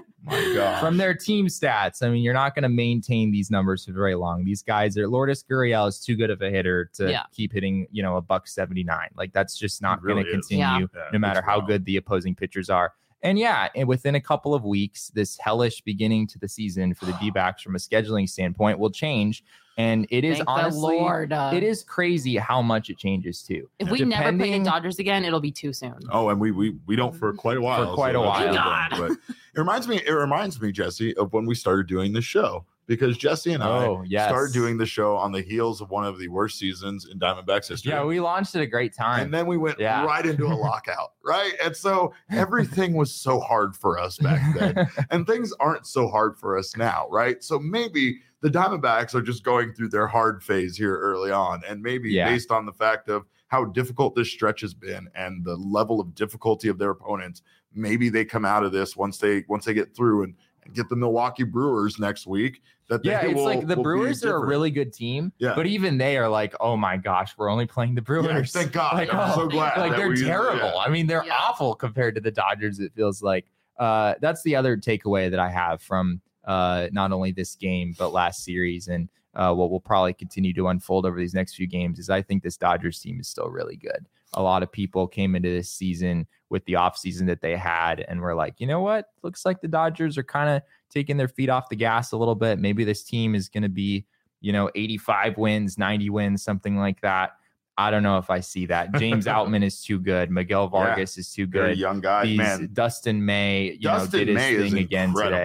My God. From their team stats, I mean, you're not going to maintain these numbers for very long. These guys are Lourdes Gurriel is too good of a hitter to yeah. keep hitting, you know, a buck seventy-nine. Like that's just not really going to continue, yeah. Yeah, no matter how wild. good the opposing pitchers are. And yeah, and within a couple of weeks, this hellish beginning to the season for the D-backs from a scheduling standpoint will change. And it is Thank honestly, the Lord, uh, it is crazy how much it changes too. If we Depending, never play the Dodgers again, it'll be too soon. Oh, and we we we don't for quite a while. For quite so a while. God. But it reminds me, it reminds me, Jesse, of when we started doing this show. Because Jesse and I oh, yes. started doing the show on the heels of one of the worst seasons in Diamondbacks history. Yeah, we launched at a great time. And then we went yeah. right into a lockout, right? And so everything was so hard for us back then. And things aren't so hard for us now, right? So maybe the Diamondbacks are just going through their hard phase here early on. And maybe yeah. based on the fact of how difficult this stretch has been and the level of difficulty of their opponents, maybe they come out of this once they once they get through and and get the Milwaukee Brewers next week. That yeah, it's will, like the Brewers are a really good team, yeah. but even they are like, oh my gosh, we're only playing the Brewers. Yeah, thank God. Like, I'm oh, so glad. Like they're we, terrible. Yeah. I mean, they're yeah. awful compared to the Dodgers. It feels like uh, that's the other takeaway that I have from uh, not only this game but last series and uh, what will probably continue to unfold over these next few games is I think this Dodgers team is still really good. A lot of people came into this season with the offseason that they had and were like, you know what? Looks like the Dodgers are kind of taking their feet off the gas a little bit. Maybe this team is going to be, you know, eighty-five wins, ninety wins, something like that. I don't know if I see that. James Outman is too good. Miguel Vargas yeah, is too good. Young guy, These, man. Dustin May, you Dustin know, did his May thing again incredible. today.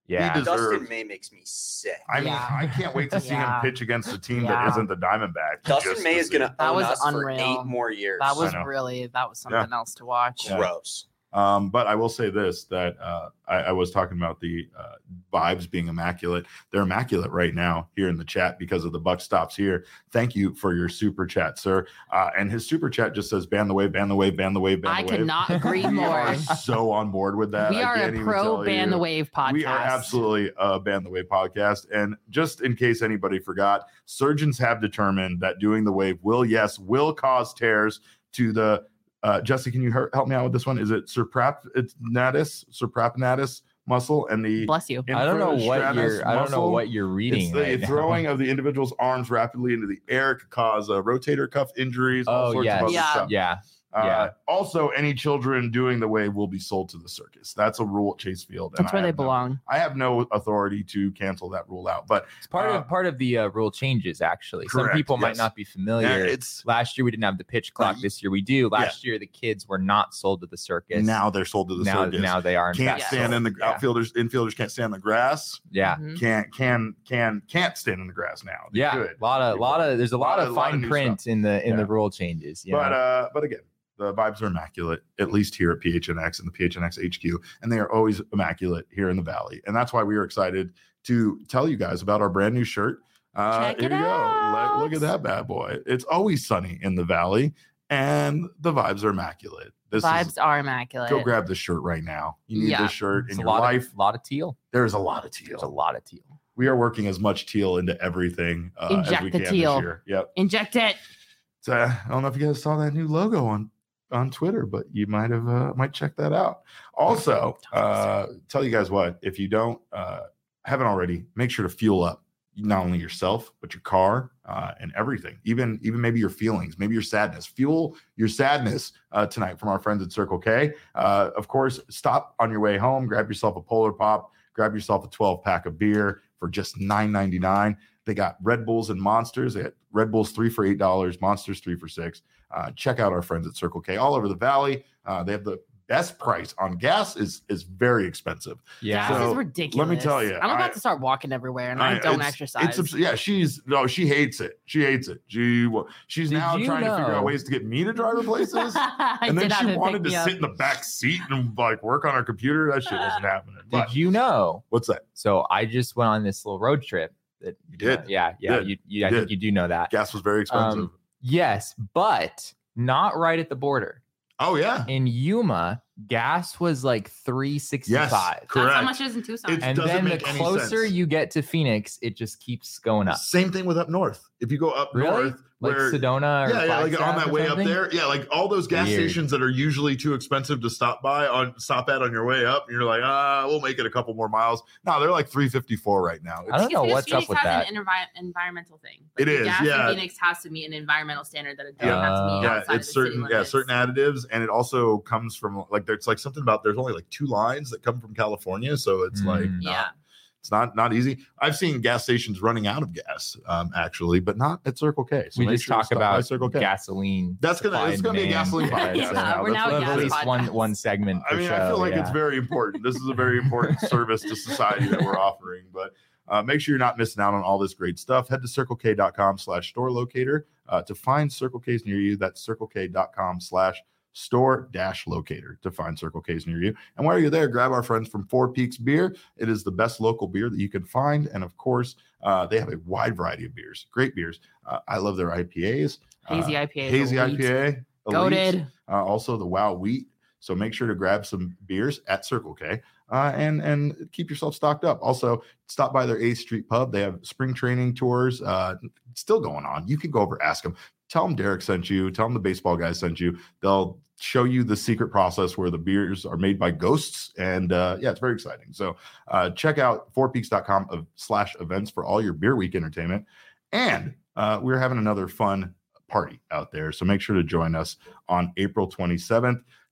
Yeah. He deserves- Dustin May makes me sick. I mean, Yeah. I can't wait to see Yeah. him pitch against a team Yeah. that isn't the Diamondbacks. Dustin just May to is see. going to That own was us for unreal. eight more years. That was I know. really that was something else to watch. Yeah. gross. Um, but I will say this, that uh, I, I was talking about the uh, vibes being immaculate. They're immaculate right now here in the chat because of the buck stops here. Thank you for your super chat, sir. Uh, and his super chat just says, ban the wave, ban the wave, ban the wave, ban the I wave. could not agree We more. are so on board with that. We I are can't a even pro tell ban you. the wave podcast. We are absolutely a Ban the Wave podcast. And just in case anybody forgot, surgeons have determined that doing the wave will, yes, will cause tears to the, uh, Jesse, can you her- help me out with this one? Is it suprapnatus, suprapnatus muscle and the Bless you. I don't know what infrastratus you're. I don't know muscle? what you're reading. It's the right now. throwing of the individual's arms rapidly into the air. It could cause uh, rotator cuff injuries, all Oh sorts yes. of other Yeah. stuff. Yeah. Uh, Yeah. Also, any children doing the wave will be sold to the circus. That's a rule at Chase Field. and That's I where they have no- belong. I have no authority to cancel that rule out, but It's part Uh, of part of the uh, rule changes. Actually, some correct, people might yes. not be yeah, familiar. it's Last year we didn't have the pitch clock. Uh, This year we do. Last year the kids were not sold to the circus. now they're sold to the now, circus. now they are. In Can't fact stand sold. in the Yeah. outfielders, infielders can't stand in the grass. Yeah. Mhm. Can't can can can't stand in the grass now. They Yeah, could. a lot of, They lot could. of. There's a lot, Lot of- of lot of fine new print stuff. in the in Yeah. the rule changes. You But know? uh, but again, the vibes are immaculate, at least here at P H N X and the P H N X H Q, and they are always immaculate here in the Valley. And that's why we are excited to tell you guys about our brand new shirt. Uh, Check here it you go. out. Let- look at that bad boy. It's always sunny in the Valley, and the vibes are immaculate. This Vibes is are immaculate. go grab this shirt right now. You need Yeah. this shirt It's in a your lot life. Of, lot of teal. There's a lot of There's a teal. lot of teal. We are working as much teal into everything uh, as Inject we the can teal. this year. Yep. Inject it. So I don't know if you guys saw that new logo on on Twitter, but you might have uh, might check that out. Also, uh, tell you guys what, if you don't uh, haven't already, make sure to fuel up not only yourself but your car uh, and everything, even even maybe your feelings, maybe your sadness. Fuel your sadness uh, tonight from our friends at Circle K. Uh, of course, stop on your way home, grab yourself a Polar Pop, grab yourself a twelve pack of beer for just nine ninety-nine. They got Red Bulls and Monsters. They got Red Bulls three for eight dollars, Monsters three for six. Uh, check out our friends at Circle K all over the Valley. Uh, they have the best price on gas. is is very expensive. Yeah. Gas So, is ridiculous. let me tell you, I'm about I- to start walking everywhere, and I, I- don't it's- exercise. It's abs- yeah, she's no, she hates it. She hates it. She well, she's Did now you trying to figure know- out ways to get me to drive her places. I And then did have she to wanted pick to me sit up. in the back seat and like work on her computer. That shit wasn't happening. But Did you know? what's that? So I just went on this little road trip. That You did. Yeah. Yeah. did. You, you, I You think did. you do know that. Gas was very expensive. Um, yes, but not right at the border. oh yeah. In Yuma, gas was like three sixty-five. That's correct. how much it is in Tucson. It's- And doesn't then the make any closer sense. you get to Phoenix, it just keeps going up. Same thing with up north. If you go up Really? north, Like where Sedona or yeah, yeah, like on Flagstaff that or way up something? there, yeah, like all those gas Weird. stations that are usually too expensive to stop by on stop at on your way up, and you're like, ah, we'll make it a couple more miles. No, they're like three fifty-four right now. I It's- don't know Because what's Phoenix up with has that. an envi- environmental thing. It the is, gas yeah. in Phoenix has to meet an environmental standard that it doesn't Yeah. have to meet yeah, outside it's of the city certain, yeah, limits. certain additives, and it also comes from like there's like something about there's only like two lines that come from California, so it's like Mm. not, Yeah. it's not not easy. I've seen gas stations running out of gas, um, actually, but not at Circle K. So we make just sure to talk stop by about Circle K. gasoline. That's gonna- supply it's and gonna be a demand. gasoline podcast Yeah, now. we're now That's a what- at gas least podcast. one one segment. I per mean, show, I feel like yeah. it's very important. This is a very important service to society that we're offering. But uh, make sure you're not missing out on all this great stuff. Head to circlek.com slash store locator uh, to find Circle K's near you. That's circlek.com slash store dash locator to find Circle K's near you. And while you're there, grab our friends from Four Peaks Beer. It is the best local beer that you can find. And of course, uh, they have a wide variety of beers, great beers. Uh, I love their I P As. Hazy uh, I P A. Hazy I P A. Elite. Goated. Uh, also the Wow Wheat. So make sure to grab some beers at Circle K uh, and and keep yourself stocked up. Also, stop by their eighth Street Pub. They have spring training tours uh, still going on. You can go over, ask them. Tell them Derek sent you. Tell them the baseball guy sent you. They'll show you the secret process where the beers are made by ghosts. And uh, yeah, it's very exciting. So uh, check out four peaks dot com of slash events for all your beer week entertainment. And uh, we're having another fun party out there. So make sure to join us on April twenty-seventh.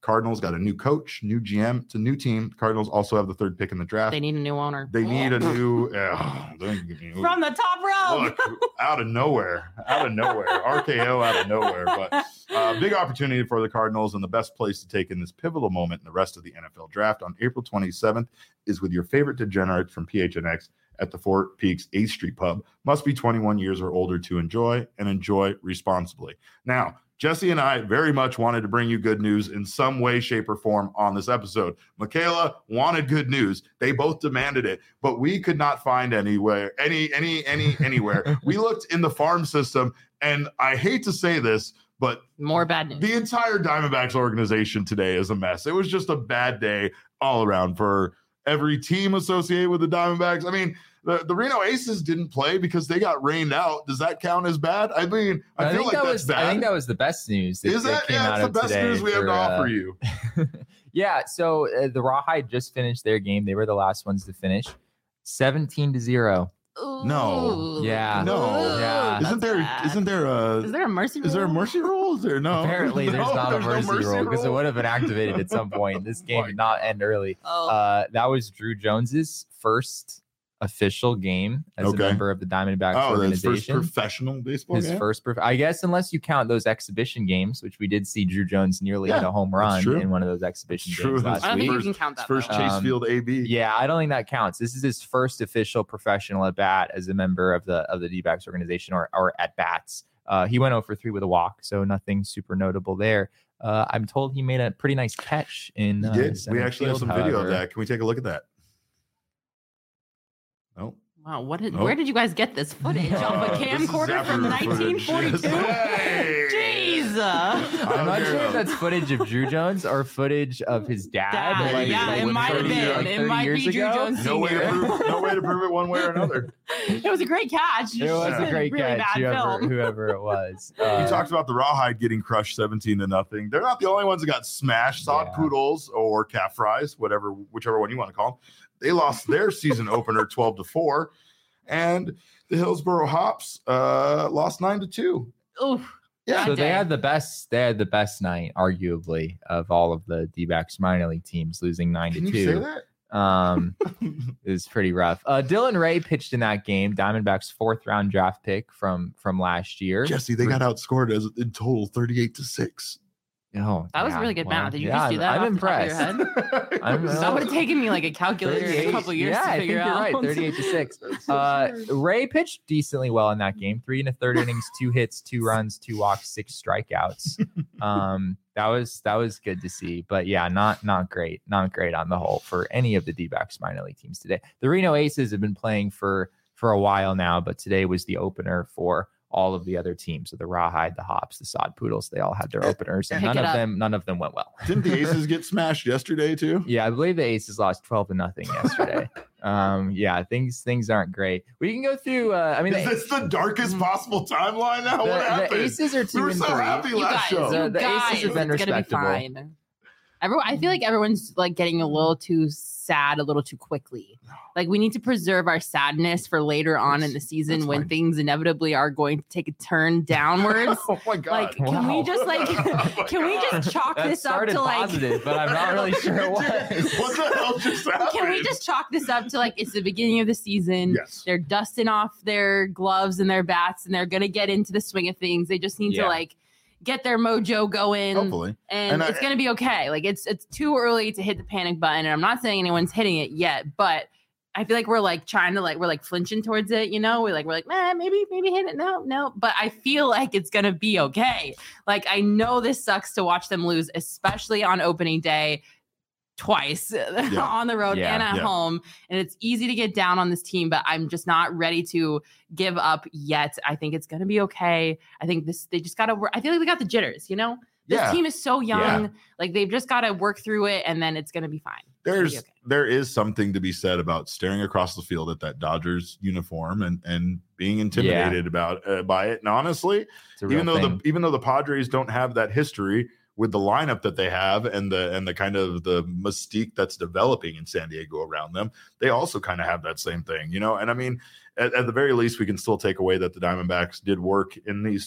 Cardinals got a new coach, new G M. It's a new team. Cardinals also have the third pick in the draft. They need a new owner. They need a new uh, from the top row. Look, out of nowhere, out of nowhere, R K O out of nowhere. But uh, big opportunity for the Cardinals, and the best place to take in this pivotal moment in the rest of the N F L draft on April twenty-seventh is with your favorite degenerate from P H N X at the Fort Peaks eighth Street Pub. Must be twenty-one years or older to enjoy, and enjoy responsibly. Now, Jesse and I very much wanted to bring you good news in some way, shape, or form on this episode. Michaela wanted good news. They both demanded it, but we could not find anywhere, any, any, any, anywhere. We looked in the farm system, and I hate to say this, but more bad news. The entire Diamondbacks organization today is a mess. It was just a bad day all around for every team associated with the Diamondbacks. I mean, the, the Reno Aces didn't play because they got rained out. Does that count as bad? I mean, I, I feel like that that's was, bad. I think that was the best news. That, is that? that came yeah, out it's of the best news we for, have to offer uh, you. yeah, so uh, the Rawhide just finished their game. They were the last ones to finish. seventeen to zero. Ooh. No. Yeah. No. Yeah. Isn't there? Bad. Isn't there a? Is there a mercy rule? Is there a mercy rule? Is there no? Apparently, there's no, not there's a mercy, no mercy rule because it rule. would have been activated at some point. This game Oh did not end early. Oh. Uh, that was Drew Jones's first official game as Okay. a member of the Diamondbacks Oh, that's first organization. professional baseball His game? first, prof- I guess, unless you count those exhibition games, which we did see Drew Jones nearly Yeah, hit a home run true. in one of those exhibition It's true. games That's last I don't week. think First- you can count that. First though. Chase Um, Field A B. Yeah, I don't think that counts. This is his first official professional at bat as a member of the of the D-backs organization, or or at bats. Uh, he went oh for three with a walk, so nothing super notable there. Uh, I'm told he made a pretty nice catch in. He Uh, did. We center actually have field, some video of however. that. Can we take a look at that? No. Wow, what did, Nope. where did you guys get this footage? Uh, Off a this is camcorder from Zapper nineteen forty-two? footage. Yes. Jeez. I'm not Okay. sure if that's footage of Drew Jones or footage of his dad. Dad, like- yeah, like it might have thirty been. like It thirty might years be Drew ago. Jones No way, to Senior. prove, no way to prove it one way or another. It was a great catch. It was Yeah. a great really catch, bad whoever, film. whoever it was. You Uh, talked about the Rawhide getting crushed seventeen to nothing. They're not the only ones that got smashed. Sod Yeah. Poodles or Calf Fries, whatever, whichever one you want to call them. They lost their season opener twelve to four, and the Hillsboro Hops uh, lost nine to two. Oof. Yeah. so Bad they day. had the best. They had the best night, arguably, of all of the D-backs minor league teams, losing nine Can to you say two. that? Um, it was pretty rough. Uh, Dylan Ray pitched in that game. Diamondbacks' fourth round draft pick from from last year. Jesse, they got outscored as in total thirty-eight to six. Oh, That was yeah, really good well, math. Did you yeah, just do that? I'm, I'm off the top of your impressed. head? I'm, That would have taken me like a calculator in a couple years yeah, to I think figure you're out. right. thirty-eight to six. Uh, Ray pitched decently well in that game. Three and a third innings, two hits, two runs, two walks, six strikeouts. Um, that was that was good to see. But yeah, not not great, not great on the whole for any of the D-backs minor league teams today. The Reno Aces have been playing for for a while now, but today was the opener for all of the other teams. So the Rawhide, the Hops, the Sod Poodles, they all had their openers, and Pick none it of up. them none of them went well. Didn't the Aces get smashed yesterday too? Yeah, I believe the Aces lost twelve to nothing yesterday. um, yeah, things things aren't great. We can go through. Uh, I mean, Is the, this the darkest possible timeline now? the, what the happened? Aces are two we were and so three. happy You last guys, show. The- you the Aces guys, have been it's gonna be respectable. fine. Everyone, I feel like everyone's like getting a little too sad a little too quickly. Like we need to preserve our sadness for later on in the season That's when fine. things inevitably are going to take a turn downwards. Oh my god! Like, can we Wow. just like, Oh my can we God. just chalk That this up started to like, positive, but I'm not really sure it was. What the hell just happened? can we just chalk this up to like, it's the beginning of the season. Yes. They're dusting off their gloves and their bats, and they're gonna get into the swing of things. They just need Yeah. to like get their mojo going. Hopefully. and, And I- it's going to be okay. Like it's it's too early to hit the panic button, and I'm not saying anyone's hitting it yet, but I feel like we're like trying to like we're like flinching towards it, you know. We're like we're like, man, maybe maybe hit it. No, no, but I feel like it's gonna be okay. Like I know this sucks to watch them lose, especially on opening day. Twice on the road Yeah, and at yeah. home, and it's easy to get down on this team, but I'm just not ready to give up yet. I think it's gonna be okay. I think this they just gotta work. I feel like they got the jitters, you know. This Yeah. team is so young. Yeah. Like they've just got to work through it, and then it's gonna be fine. It's gonna be There's okay. there is something to be said about staring across the field at that Dodgers uniform and and being intimidated about uh, by it. And honestly, It's a real even though thing. the even though the Padres don't have that history with the lineup that they have and the and the kind of the mystique that's developing in San Diego around them, they also kind of have that same thing, you know. And I mean, at, at the very least, we can still take away that the Diamondbacks did work in these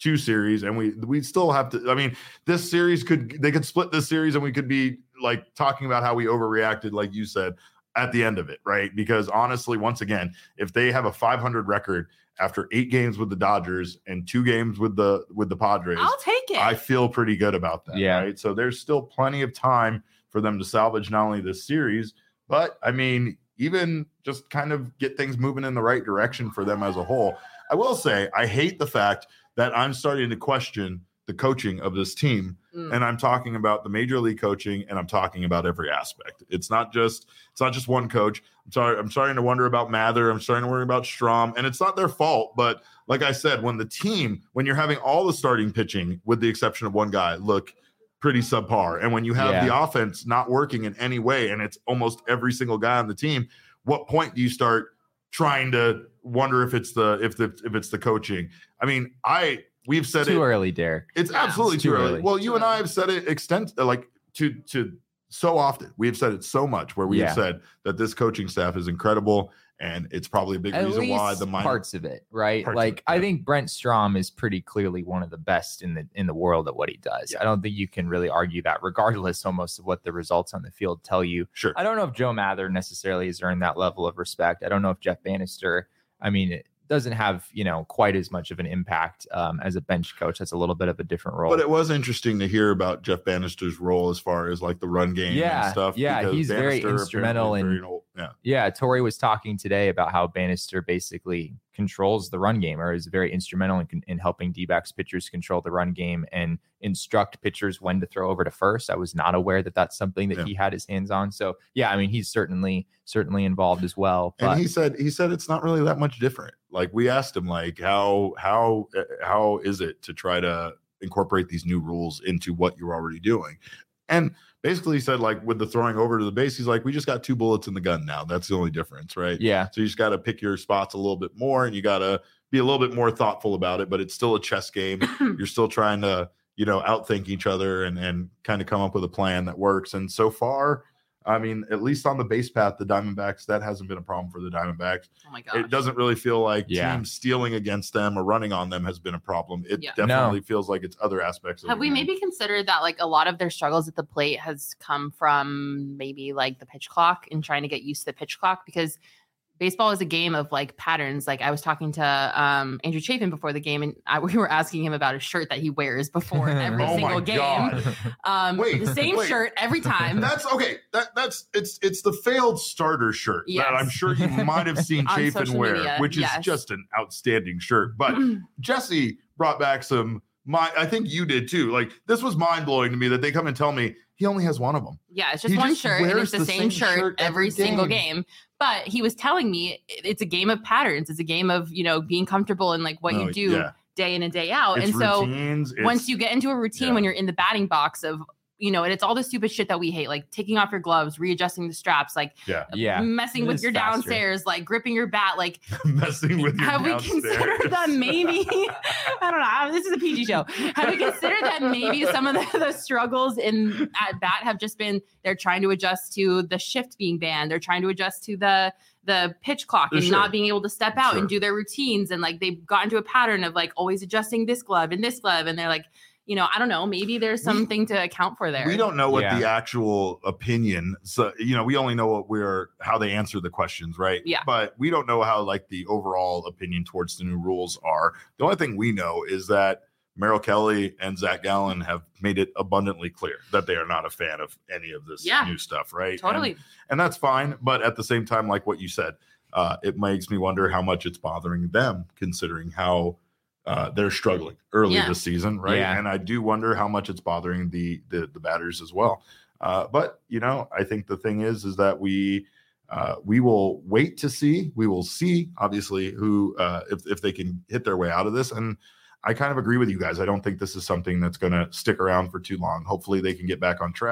two series, and we we still have to. I mean, this series could they could split this series, and we could be like talking about how we overreacted, like you said, at the end of it, right? Because honestly, once again, if they have a five hundred record after eight games with the Dodgers and two games with the with the Padres, I'll take it. I feel pretty good about that. Yeah. Right. So there's still plenty of time for them to salvage not only this series, but I mean, even just kind of get things moving in the right direction for them as a whole. I will say, I hate the fact that I'm starting to question the coaching of this team. Mm. And I'm talking about the major league coaching, and I'm talking about every aspect. It's not just it's not just one coach. I'm sorry, I'm starting to wonder about Mather. I'm starting to worry about Strom, and it's not their fault. But like I said, when the team, when you're having all the starting pitching, with the exception of one guy, look pretty subpar, and when you have yeah. the offense not working in any way, and it's almost every single guy on the team, what point do you start trying to wonder if it's the if the if it's the coaching? I mean, I. We've said too it, early, Derek. It's yeah, absolutely it's too, too early. early. Well, you and I have said it extent like to to so often. We have said it so much where we yeah. have said that this coaching staff is incredible, and it's probably a big At reason least why the minor, parts of it, right? of Like it, I yeah. think Brent Strom is pretty clearly one of the best in the in the world at what he does. Yeah. I don't think you can really argue that, regardless almost of what the results on the field tell you. Sure. I don't know if Joe Mather necessarily has earned that level of respect. I don't know if Jeff Bannister. I mean. It, doesn't have, you know, quite as much of an impact um, as a bench coach. That's a little bit of a different role. But it was interesting to hear about Jeff Bannister's role as far as like the run game yeah, and stuff. Yeah, he's Bannister very instrumental in. Very, yeah, yeah. Torrey was talking today about how Bannister basically controls the run game, or is very instrumental in, in helping D-backs pitchers control the run game and instruct pitchers when to throw over to first. I was not aware that that's something that yeah. he had his hands on. So yeah, I mean, he's certainly certainly involved as well. But and he said he said it's not really that much different. Like we asked him, like how how how is it to try to incorporate these new rules into what you're already doing? And basically he said, like, with the throwing over to the base, he's like, we just got two bullets in the gun now. That's the only difference, right? Yeah. So you just got to pick your spots a little bit more, and you got to be a little bit more thoughtful about it. But it's still a chess game. You're still trying to, you know, outthink each other and and kind of come up with a plan that works. And so far, I mean, at least on the base path, the Diamondbacks, that hasn't been a problem for the Diamondbacks. Oh my gosh. It doesn't really feel like yeah. teams stealing against them or running on them has been a problem. It yeah. definitely no. feels like it's other aspects of Have the we game. maybe considered that like a lot of their struggles at the plate has come from maybe like the pitch clock and trying to get used to the pitch clock? Because baseball is a game of like patterns. Like I was talking to um, Andrew Chafin before the game, and I, we were asking him about a shirt that he wears before every oh single my game. God. Um, wait, the same wait. shirt every time. That's okay. That that's it's it's the failed starter shirt Yes. that I'm sure you might have seen On Chafin social wear, media, which is yes. just an outstanding shirt. But Jesse brought back some. My, I think you did too. Like this was mind blowing to me that they come and tell me he only has one of them. Yeah, it's just He one just shirt, and wears it's the, the same, same shirt, shirt every every single game. game. But he was telling me it's a game of patterns. It's a game of, you know, being comfortable in like what Oh, you do yeah. day in and day out. It's and so routines, it's- once you get into a routine yeah. when you're in the batting box of, you know, and it's all the stupid shit that we hate, like taking off your gloves, readosting the straps, like yeah, yeah. messing It with is your faster. downstairs, like gripping your bat, like messing with your have we downstairs. considered that maybe I don't know, this is a P G show. Have we considered that maybe some of the, the struggles in at bat have just been they're trying to adjust to the shift being banned, they're trying to adjust to the the pitch clock and Sure. not being able to step out Sure. and do their routines, and like they've gotten to a pattern of like always adjusting this glove and this glove, and they're like, you know, I don't know, maybe there's something we, to account for there. We don't know what Yeah. the actual opinion. So, you know, we only know what we're how they answer the questions, right? Yeah. But we don't know how like the overall opinion towards the new rules are. The only thing we know is that Merrill Kelly and Zach Gallen have made it abundantly clear that they are not a fan of any of this Yeah. new stuff, right? Totally. And, and that's fine. But at the same time, like what you said, uh, it makes me wonder how much it's bothering them, considering how uh, they're struggling early Yeah. this season, right? Yeah. And I do wonder how much it's bothering the the, the batters as well. Uh, but you know, I think the thing is, is that we uh, we will wait to see. We will see, obviously, who uh, if if they can hit their way out of this. And I kind of agree with you guys. I don't think this is something that's going to stick around for too long. Hopefully, they can get back on track.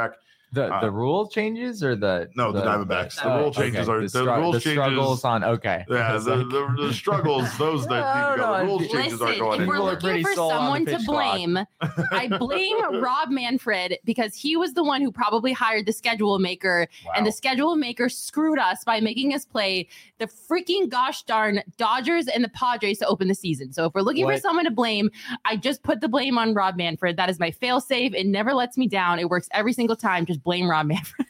The Uh, the rule changes or the no, the, the Diamondbacks. The, Oh, rule changes okay. are the, the, stru- rule the changes. struggles on okay. Yeah, It's the, like- the, the struggles, those that I need to don't go. The know. rules Listen, changes aren't going if we're People are anywhere. pretty looking for sold on the someone to pitch clock. blame, I blame Rob Manfred because he was the one who probably hired the schedule maker, Wow. and the schedule maker screwed us by making us play the freaking gosh darn Dodgers and the Padres to open the season. So if we're looking What? for someone to blame, I just put the blame on Rob Manfred. That is my fail safe. It never lets me down. It works every single time. Just blame Rob Manfred.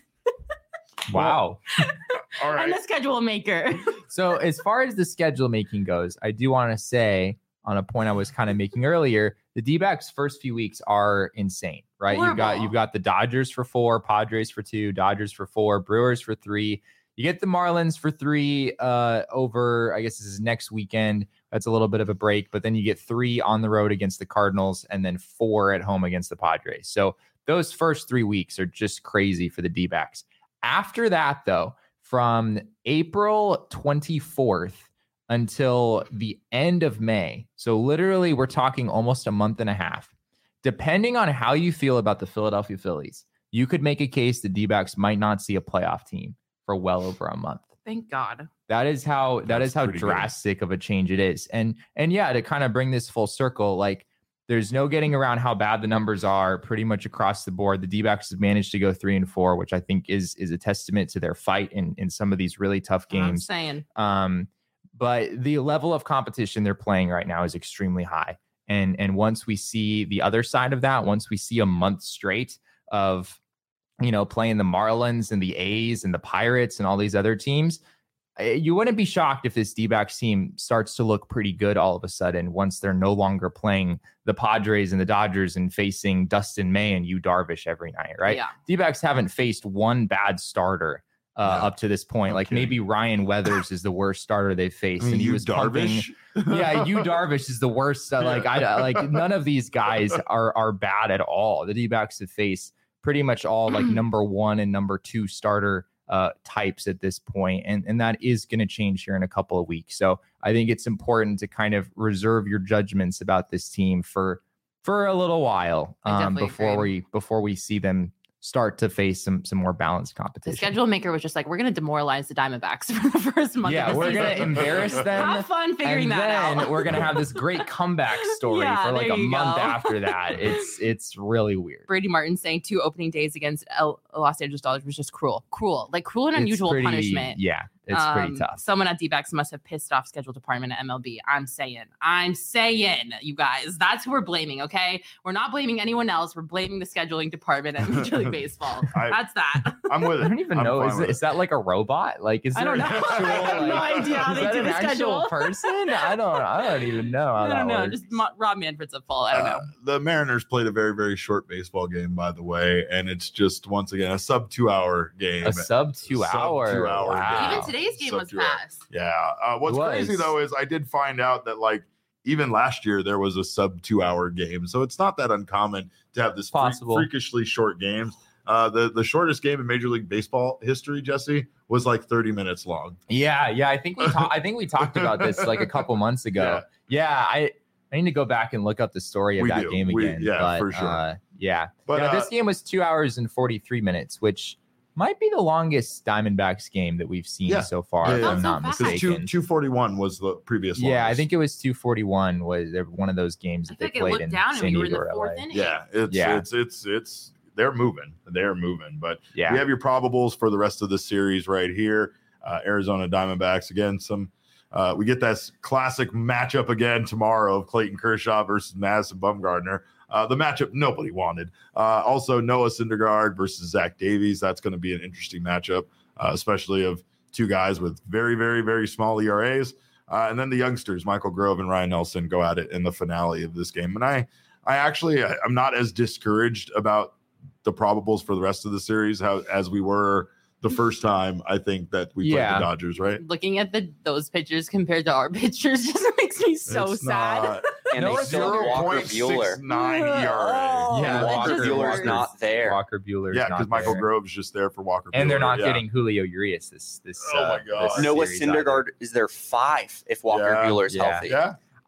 Wow. All I'm right. the schedule maker. So as far as the schedule making goes, I do want to say on a point I was kind of making earlier, the D-backs first few weeks are insane, right? You've got Horrible. you've got the Dodgers for four, Padres for two, Dodgers for four, Brewers for three. You get the Marlins for three uh, over, I guess this is next weekend. That's a little bit of a break, but then you get three on the road against the Cardinals and then four at home against the Padres. So those first three weeks are just crazy for the D-backs. After that, though, from April twenty-fourth until the end of May, so literally we're talking almost a month and a half, depending on how you feel about the Philadelphia Phillies, you could make a case the D-backs might not see a playoff team for well over a month. Thank God. That is how that That's is how pretty good. drastic of a change it is. And and yeah, to kind of bring this full circle, like there's no getting around how bad the numbers are pretty much across the board. The D-backs have managed to go three and four, which I think is is a testament to their fight in, in some of these really tough I'm games. saying. Um, but the level of competition they're playing right now is extremely high. And and once we see the other side of that, once we see a month straight of, you know, playing the Marlins and the A's and the Pirates and all these other teams, you wouldn't be shocked if this D-backs team starts to look pretty good all of a sudden once they're no longer playing the Padres and the Dodgers and facing Dustin May and Yu Darvish every night, right? Yeah. D-backs haven't faced one bad starter uh, No. up to this point. No like kidding. maybe Ryan Weathers is the worst starter they've faced, I mean, and he you was pumping- Darvish. yeah, Yu Darvish is the worst. Uh, like I like none of these guys are are bad at all. The D-backs have faced pretty much all like number one and number two starter uh, types at this point, and and that is going to change here in a couple of weeks. So I think it's important to kind of reserve your judgments about this team for for a little while I um, definitely before agree. we before we see them start to face some some more balanced The competition. schedule maker was just like, we're going to demoralize the Diamondbacks for the first month. Yeah, of the we're season. gonna embarrass them. Have fun figuring and that then out. we're gonna have this great comeback story Yeah, for like there a you month go. after that. It's it's really weird. Brady Martin saying two opening days against L- Los Angeles Dodgers was just cruel, cruel, like cruel and It's unusual pretty- punishment. Yeah, it's pretty Um, tough. Someone at D-backs must have pissed off schedule department at M L B. I'm saying, I'm saying, you guys, that's who we're blaming. Okay, we're not blaming anyone else. We're blaming the scheduling department at Major League Baseball. I- that's that. I'm with it. I don't even I'm know. fine Is, with is that like a robot? Like, is I there don't an know. actual? I have no like- idea how is they that do an the actual schedule. person? I don't. I don't even know. How I that don't know. works. Just Mo- Rob Manfred's at fault. I don't know. Uh, the Mariners played a very, very short baseball game, by the way, and it's just once again a sub two hour game. a sub two Sub hour. two-hour Wow. game. Even today's game Sub was two hours. fast. Yeah. Uh, what's It crazy was. though is I did find out that like even last year there was a sub two hour game, so it's not that uncommon to have this freak- Possible. freakishly short games. Uh, the the shortest game in Major League Baseball history, Jesse, was like thirty minutes long. Yeah, yeah. I think we talked. I think we talked about this like a couple months ago. Yeah, I I need to go back and look up the story of We that do. game We- again. yeah, but, for sure. Uh, yeah, But yeah. uh, This game was two hours and forty three minutes, which might be the longest Diamondbacks game that we've seen Yeah. so far. Yeah, if yeah. I'm That's so not fast. because mistaken. two two forty one was the previous. Yeah, I longest. think it was two forty one. Was one of those games I that they think it played looked in down and San we were in Diego the or fourth L A. inning. Yeah, it's Yeah. it's it's it's they're moving. They're moving. But Yeah, we have your probables for the rest of the series right here. Uh, Arizona Diamondbacks again. Some uh, we get that s- classic matchup again tomorrow of Clayton Kershaw versus Madison Bumgarner. Uh, the matchup nobody wanted. Uh, also Noah Syndergaard versus Zach Davies. That's going to be an interesting matchup, uh, especially of two guys with very very very small E R As. Uh, and then the youngsters, Michael Grove and Ryan Nelson, go at it in the finale of this game. And I, I actually, I, I'm not as discouraged about the probables for the rest of the series how as we were the first time. I think that we Yeah. played the Dodgers, right? Looking at the those pitchers compared to our pitchers just makes me so It's sad. not- And No, they it's still have Walker Bueller. nine E R A. Oh, Yeah, that Walker just Bueller's hurts. not there. Walker Bueller's Yeah, not because Michael there. Grove's just there for Walker. and they're Buehler, not yeah. getting Julio Urias this this. Oh uh, my God. this Noah series either. Syndergaard is their five if Walker Yeah. Bueller's Yeah. healthy. Yeah,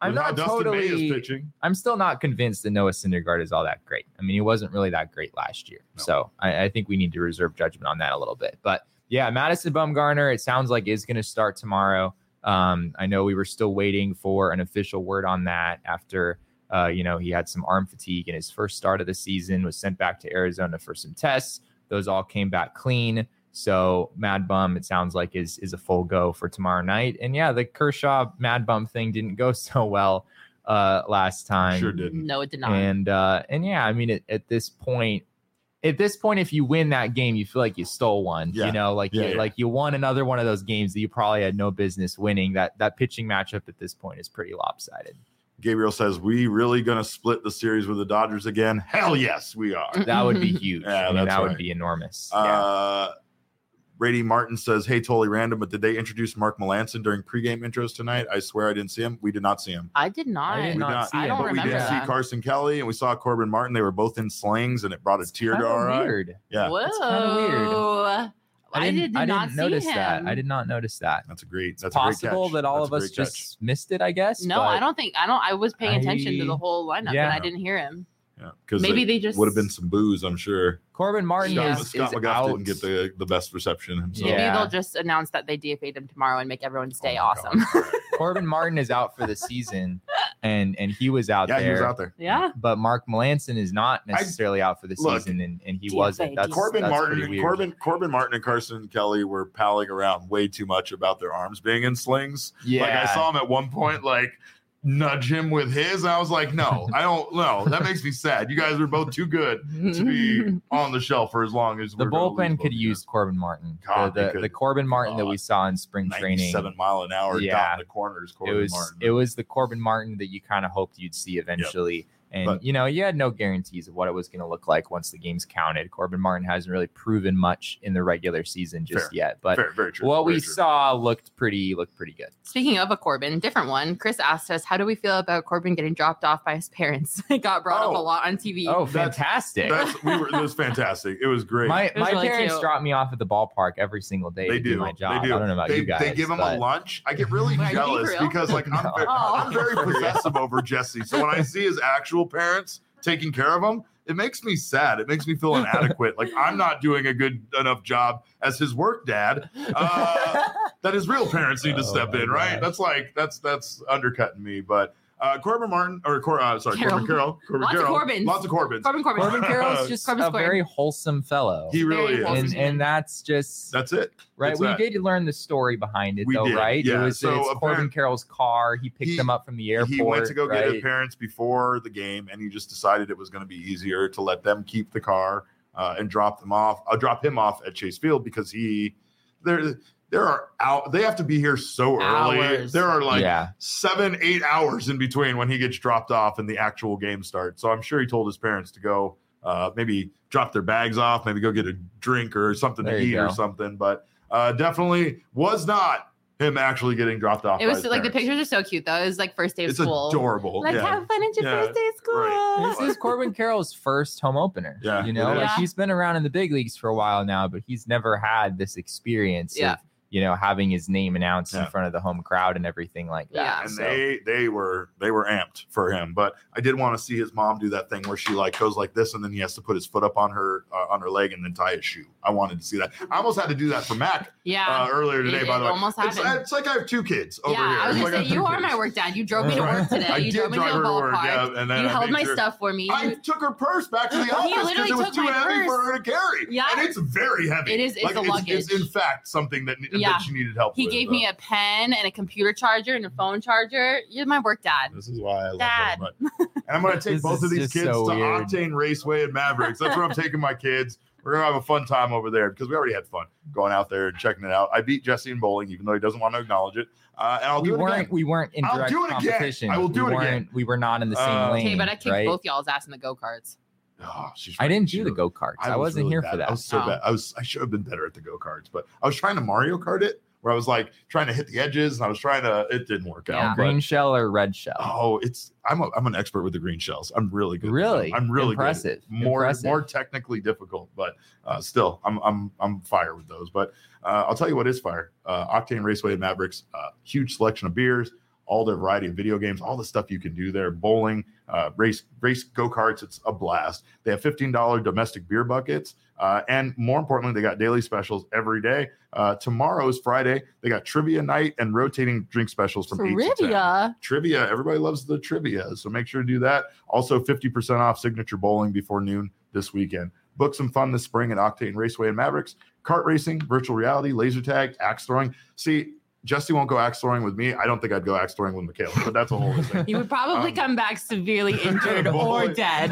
I'm not Dustin totally. May is pitching. I'm still not convinced that Noah Syndergaard is all that great. I mean, he wasn't really that great last year, No. so I, I think we need to reserve judgment on that a little bit. But yeah, Madison Bumgarner, it sounds like is going to start tomorrow. Um, I know we were still waiting for an official word on that after. Uh, you know, he had some arm fatigue in his first start of the season, was sent back to Arizona for some tests. Those all came back clean. So Mad Bum, it sounds like, is is a full go for tomorrow night. And yeah, the Kershaw Mad Bum thing didn't go so well uh, last time. Sure didn't. No, it did not. And uh, and yeah, I mean, at, at this point, at this point, if you win that game, you feel like you stole one. Yeah. You know, like Yeah, you, yeah. like you won another one of those games that you probably had no business winning. That that pitching matchup at this point is pretty lopsided. Gabriel says, we really going to split the series with the Dodgers again? Hell yes, we are. That would be huge. Yeah, I mean, that's that right. would be enormous. yeah. Uh, Brady Martin says, hey, totally random, but did they introduce Mark Melanson during pregame intros tonight? I swear I didn't see him. We did not see him. I did not. I did We not did not see I him. don't but we remember did see that. Carson Kelly and we saw Corbin Martin. They were both in slings and it brought a tear to Kinda our eye. weird. Yeah, Whoa. kinda weird. I, didn't, did I not didn't see notice him. that. I did not notice that. that's a great. That's It's a great possible catch. that all That's of a us great just catch. missed it, I guess. No, but I don't think I don't. I was paying attention to I- the whole lineup, yeah. and I didn't hear him. Yeah, because Maybe they just- would have been some booze, I'm sure. Corbin Martin Yeah. is, Scott is McGough out. didn't get the, the best reception himself. Maybe Yeah. they'll just announce that they D F A'd him tomorrow and make everyone stay Oh my God. awesome. All right. Corbin Martin is out for the season, and and he was out Yeah, there. he was out there. yeah. But Mark Melanson is not necessarily out for the look, season, and, and he D F A, wasn't. That's Corbin that's Martin, pretty weird. Corbin, Corbin Martin, and Carson Kelly were palling around way too much about their arms being in slings. Yeah, Like I saw him at one point, like nudge him with his. And I was like, no, I don't know. That makes me sad. You guys are both too good to be on the shelf for as long as the we're gonna lose bullpen both could of you. use Corbin Martin. God, the they the, could. the Corbin Martin that we God. saw in spring training. ninety-seven mile an hour Yeah. down the corners. It Corbin was Martin. it was the Corbin Martin that you kind of hoped you'd see eventually. And, But- you know, you had no guarantees of what it was going to look like once the games counted. Corbin Martin hasn't really proven much in the regular season just Fair. yet. But very, very true. what very we true. saw looked pretty looked pretty good. Speaking of a Corbin, different one. Chris asked us, "How do we feel about Corbin getting dropped off by his parents?" It got brought up Oh. a lot on T V. Oh, That's- fantastic. That's we were. It was fantastic. It was great. My was my really parents cute. drop me off at the ballpark every single day They to do, do. my job. They do. I don't know about they, you guys. They give him but a lunch. I get really Wait, are you being jealous real? because like I'm, No. very, Oh. I'm very possessive over Jesse. So when I see his actual parents taking care of him, it makes me sad. It makes me feel inadequate. Like I'm not doing a good enough job as his work dad. Uh, that his real parents need to Oh step my in, right? gosh. That's like that's that's undercutting me. But uh, Corbin Martin or Cor, uh, sorry, Carroll. Corbin Carroll, Corbin Lots of Carroll, Corbins. lots of Corbins. Corbin Corbin. Corbin Carroll's just Corbin a squared. very wholesome fellow. He really Very is. wholesome. and and that's just That's it. right. It's We that. did learn the story behind it, We though, did, right? yeah. It was So it's Corbin apparent- Carroll's car. He picked He- them up from the airport. He went to go get his right? parents before the game, and he just decided it was going to be easier to let them keep the car uh, and drop them off. I'll drop him off at Chase Field because he there there are out. They have to be here so early. Hours. There are like yeah, seven, eight hours in between when he gets dropped off and the actual game starts. So I'm sure he told his parents to go uh, maybe drop their bags off, maybe go get a drink or something There to you eat or go. something. But uh, definitely was not him actually getting dropped off. It by was his like the parents. pictures are so cute though. It was like first day of It's school. adorable. Like yeah. have fun at your Yeah, first day of school. right. this is Corbin Carroll's first home opener. Yeah, you know, it like is. he's been around in the big leagues for a while now, but he's never had this experience Yeah. of you know having his name announced Yeah. in front of the home crowd and everything like that. Yeah. and So- they they were they were amped for him. But I did want to see his mom do that thing where she like goes like this, and then he has to put his foot up on her uh, on her leg and then tie his shoe. I wanted to see that. I almost had to do that for Mac Yeah. uh, earlier today. It- by the it way, almost it's, happened. it's like I have two kids over yeah, here. I was It's gonna like I say have you two are kids. my work dad. You drove me to Right. work today. I you did drove me to drive the her to work, ballpark. yeah, and then you I held made my sure- stuff for me. I took her purse back to the He office because literally it was took too my heavy for purse. her to carry. Yeah. and it's very heavy. It is- it's like, a it's, it's luggage. in fact something that, Yeah. that she needed help He with. gave but me a pen and a computer charger and a phone charger. You're my work dad. This is why I love Dad. her. But, and I'm going to take This both is of these just kids so to weird. Octane Raceway and Mavericks. That's where I'm taking my kids. We're going to have a fun time over there because we already had fun going out there and checking it out. I beat Jesse in bowling, even though he doesn't want to acknowledge it. Uh, and I'll we do it weren't again. we weren't in I'll direct do it again. competition. I will do we it again. weren't- We were not in the same Uh, lane. Okay, but I kicked right? both y'all's ass in the go karts. Oh, she's I didn't she do the was- go karts. I, was wasn't really here bad. for that. I was so Oh. bad. I was. I should have been better at the go karts, but I was trying to Mario Kart it, where I was like trying to hit the edges, and I was trying to. It didn't work Yeah. out. but- Green shell or red shell? Oh, it's I'm a, I'm an expert with the green shells. I'm really good. with Really? them. I'm really Impressive. Good. More Impressive. more technically difficult, but uh, still, I'm I'm I'm fire with those. But uh, I'll tell you what is fire. Uh, Octane Raceway and Mavericks, uh, huge selection of beers, all their variety of video games, all the stuff you can do there, bowling, uh, race, race go-karts. It's a blast. They have fifteen dollars domestic beer buckets. Uh, and more importantly, they got daily specials every day. Uh, tomorrow is Friday. They got trivia night and rotating drink specials from trivia. eight to ten. Trivia. Everybody loves the trivia. So make sure to do that. Also fifty percent off signature bowling before noon this weekend. Book some fun this spring at Octane Raceway and Mavericks. Kart racing, virtual reality, laser tag, axe throwing. See, Jesse won't go axe throwing with me. I don't think I'd go axe throwing with Michaela, but that's a whole thing. You would probably um, come back severely injured or dead.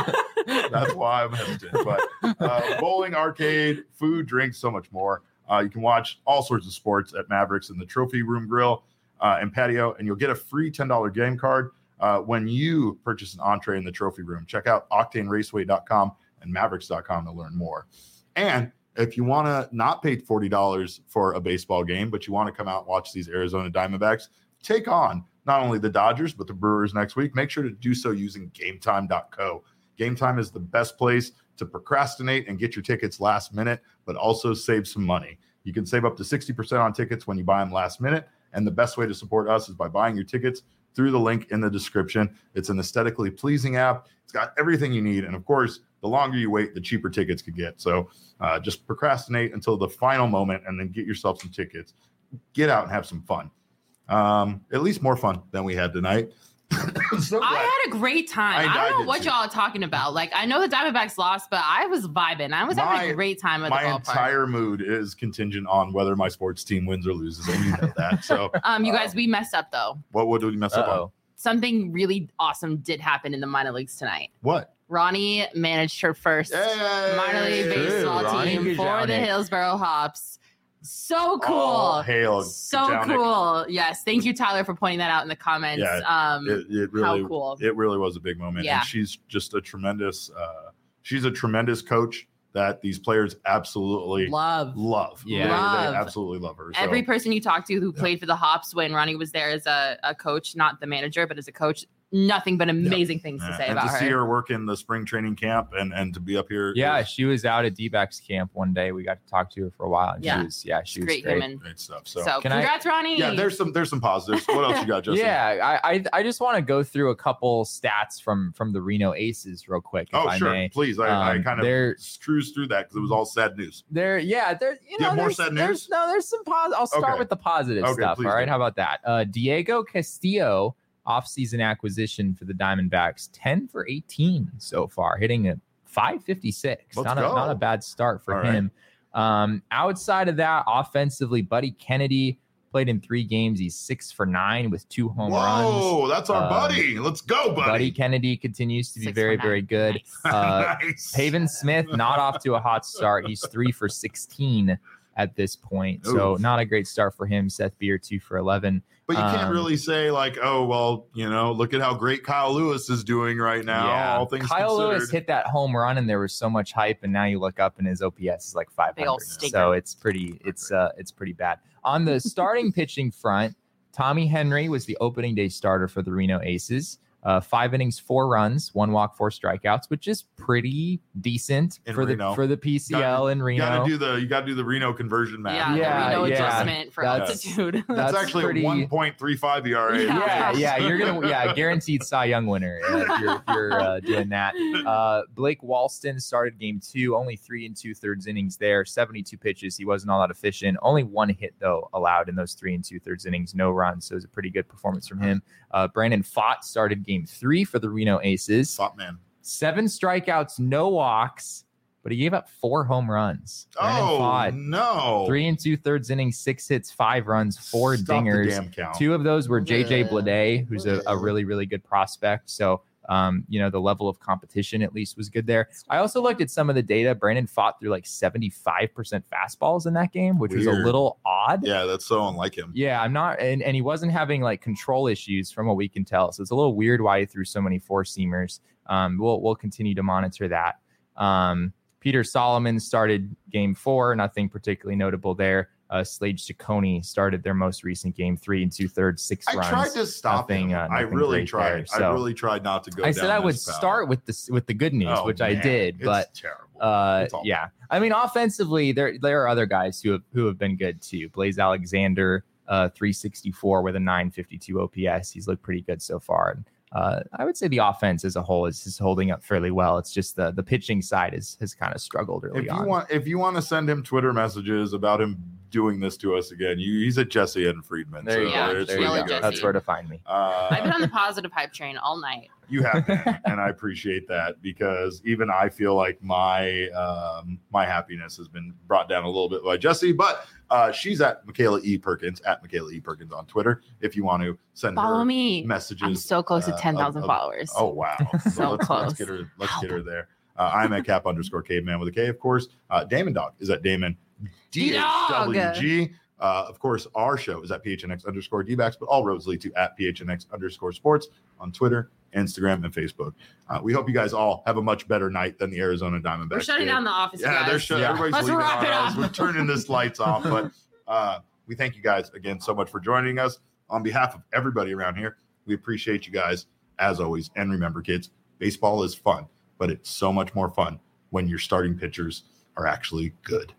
That's why I'm hesitant. But uh, bowling, arcade, food, drinks, so much more. Uh, you can watch all sorts of sports at Mavericks in the Trophy Room Grill uh, and patio, and you'll get a free ten dollars game card uh, when you purchase an entree in the Trophy Room. Check out octane raceway dot com and mavericks dot com to learn more. And if you want to not pay forty dollars for a baseball game, but you want to come out and watch these Arizona Diamondbacks take on not only the Dodgers, but the Brewers next week, make sure to do so using game time dot co. Game Time is the best place to procrastinate and get your tickets last minute, but also save some money. You can save up to sixty percent on tickets when you buy them last minute. And the best way to support us is by buying your tickets through the link in the description. It's an aesthetically pleasing app. It's got everything you need. And of course, the longer you wait, the cheaper tickets could get. So uh, just procrastinate until the final moment and then get yourself some tickets. Get out and have some fun. Um, at least more fun than we had tonight. So I had a great time. I, I don't know what too. y'all are talking about. Like, I know the Diamondbacks lost, but I was vibing. I was my, having a great time at the ballpark. My entire mood is contingent on whether my sports team wins or loses, and you know that. So, um, you guys, uh, we messed up though. What would we mess Uh-oh. up on? Something really awesome did happen in the minor leagues tonight. What? Ronnie managed her first hey, minor league baseball Ronnie team for the Hillsboro Hops. So cool. Oh, hail. So Kajanic. Cool. Yes. Thank you, Tyler, for pointing that out in the comments. Yeah, um, it, it really, how cool. It really was a big moment. Yeah. And she's just a tremendous, uh, she's a tremendous coach that these players absolutely love. Love. Yeah. Love. They absolutely love her. So. Every person you talk to who yeah. played for the Hops when Ronnie was there as a, a coach, not the manager, but as a coach, nothing but amazing yeah. things to yeah. say and about to her. see her work in the spring training camp and, and to be up here. Yeah, is, she was out at D-backs camp one day. We got to talk to her for a while. And yeah. she was, yeah, she was great. great. Human. Great stuff. So, so congrats, I, Ronnie. Yeah, there's some there's some positives. What else you got, Justin? Yeah, I I, I just want to go through a couple stats from from the Reno Aces real quick. If oh, I sure. May. Please. I, um, I kind of cruised through that because it was all sad news. There, yeah, there. You know, you more sad news? No, there's some positive. I'll start okay. with the positive okay, stuff. All right, do. how about that? Uh, Diego Castillo, off-season acquisition for the Diamondbacks, ten for eighteen so far, hitting a five fifty-six. Let's not go. a not a bad start for all him. Right. Um, outside of that, offensively, Buddy Kennedy played in three games. He's six for nine with two home Whoa, runs. Whoa, that's our um, buddy. Let's go, buddy. Buddy Kennedy continues to be six very, very good. Nice. Uh, nice. Pavin Smith, not off to a hot start. He's three for sixteen at this point. Oof. So not a great start for him. Seth Beer, two for eleven. But you can't um, really say like, oh, well, you know, look at how great Kyle Lewis is doing right now. Yeah. All things Kyle considered. Lewis hit that home run and there was so much hype, and now you look up and his O P S is like five hundred. So it's pretty, it's uh, it's pretty bad. On the starting pitching front, Tommy Henry was the opening day starter for the Reno Aces. Uh, five innings, four runs, one walk, four strikeouts, which is pretty decent in for Reno. the for the P C L gotta, in Reno. You got to do the you got to do the Reno conversion math. Yeah, yeah, the Reno yeah. adjustment for That's, altitude. That's, That's actually pretty, a one point three five E R A. Yeah. Yeah, yeah, you're gonna yeah guaranteed Cy Young winner uh, if you're, if you're uh, doing that. Uh, Blake Walston started game two, only three and two thirds innings there, seventy-two pitches. He wasn't all that efficient. Only one hit though allowed in those three and two thirds innings, no runs. So it was a pretty good performance from him. Uh, Brandon Pfaadt started game three for the Reno Aces. Pfaadt, man. Seven strikeouts, no walks, but he gave up four home runs. Brandon Oh Pfaadt, no! Three and two thirds innings, six hits, five runs, four Stop dingers. The damn count. Two of those were J J Yeah. Bleday, who's a, a really, really good prospect. So, um, you know, the level of competition at least was good there. I also looked at some of the data. Brandon Pfaadt threw like seventy-five percent fastballs in that game, which was a Weird. little odd. Yeah, that's so unlike him. Yeah, I'm not, and, and he wasn't having like control issues from what we can tell. So it's a little weird why he threw so many four seamers. Um, we'll we'll continue to monitor that. Um, Peter Solomon started game four, nothing particularly notable there. Uh, Slade Ciccone started their most recent game, three and two thirds, six I runs. tried to stop nothing, him. Uh, I nothing really great tried. there. So I really tried not to go. I said down I would this path. start with this with the good news, Oh, which man. I did, It's but terrible. uh, It's awful. yeah. I mean, offensively, there there are other guys who have who have been good too. Blaze Alexander, uh, three sixty-four with a nine fifty-two O P S. He's looked pretty good so far. And, uh, I would say the offense as a whole is, is holding up fairly well. It's just the the pitching side is, has kind of struggled early if you on. Want, if you want to send him Twitter messages about him doing this to us again, you, he's at Jesse and Friedman. There you so go. it's There you really go. good. That's where to find me. Uh, I've been on the positive hype train all night. You have been, and I appreciate that because even I feel like my um, my happiness has been brought down a little bit by Jesse, but uh, she's at Michaela E. Perkins, at Michaela E. Perkins on Twitter. If you want to send Follow her me. messages. I'm so close to uh, ten thousand of- of- followers. Oh, wow. So let's, close. Let's get her, let's get her there. Uh, I'm at Cap underscore Caveman with a K, of course. Uh, Damon Dog is at Damon D H W G. Uh, of course, our show is at P H N X underscore D-backs, but all roads lead to at P H N X underscore sports on Twitter, Instagram, and Facebook. Uh, we hope you guys all have a much better night than the Arizona Diamondbacks. We're shutting did. down the office. Yeah, guys. they're shutting. Yeah. Everybody's Let's leaving wrap on it us. up. We're turning this lights off, but uh, we thank you guys again so much for joining us. On behalf of everybody around here, we appreciate you guys as always. And remember, kids, baseball is fun, but it's so much more fun when your starting pitchers are actually good.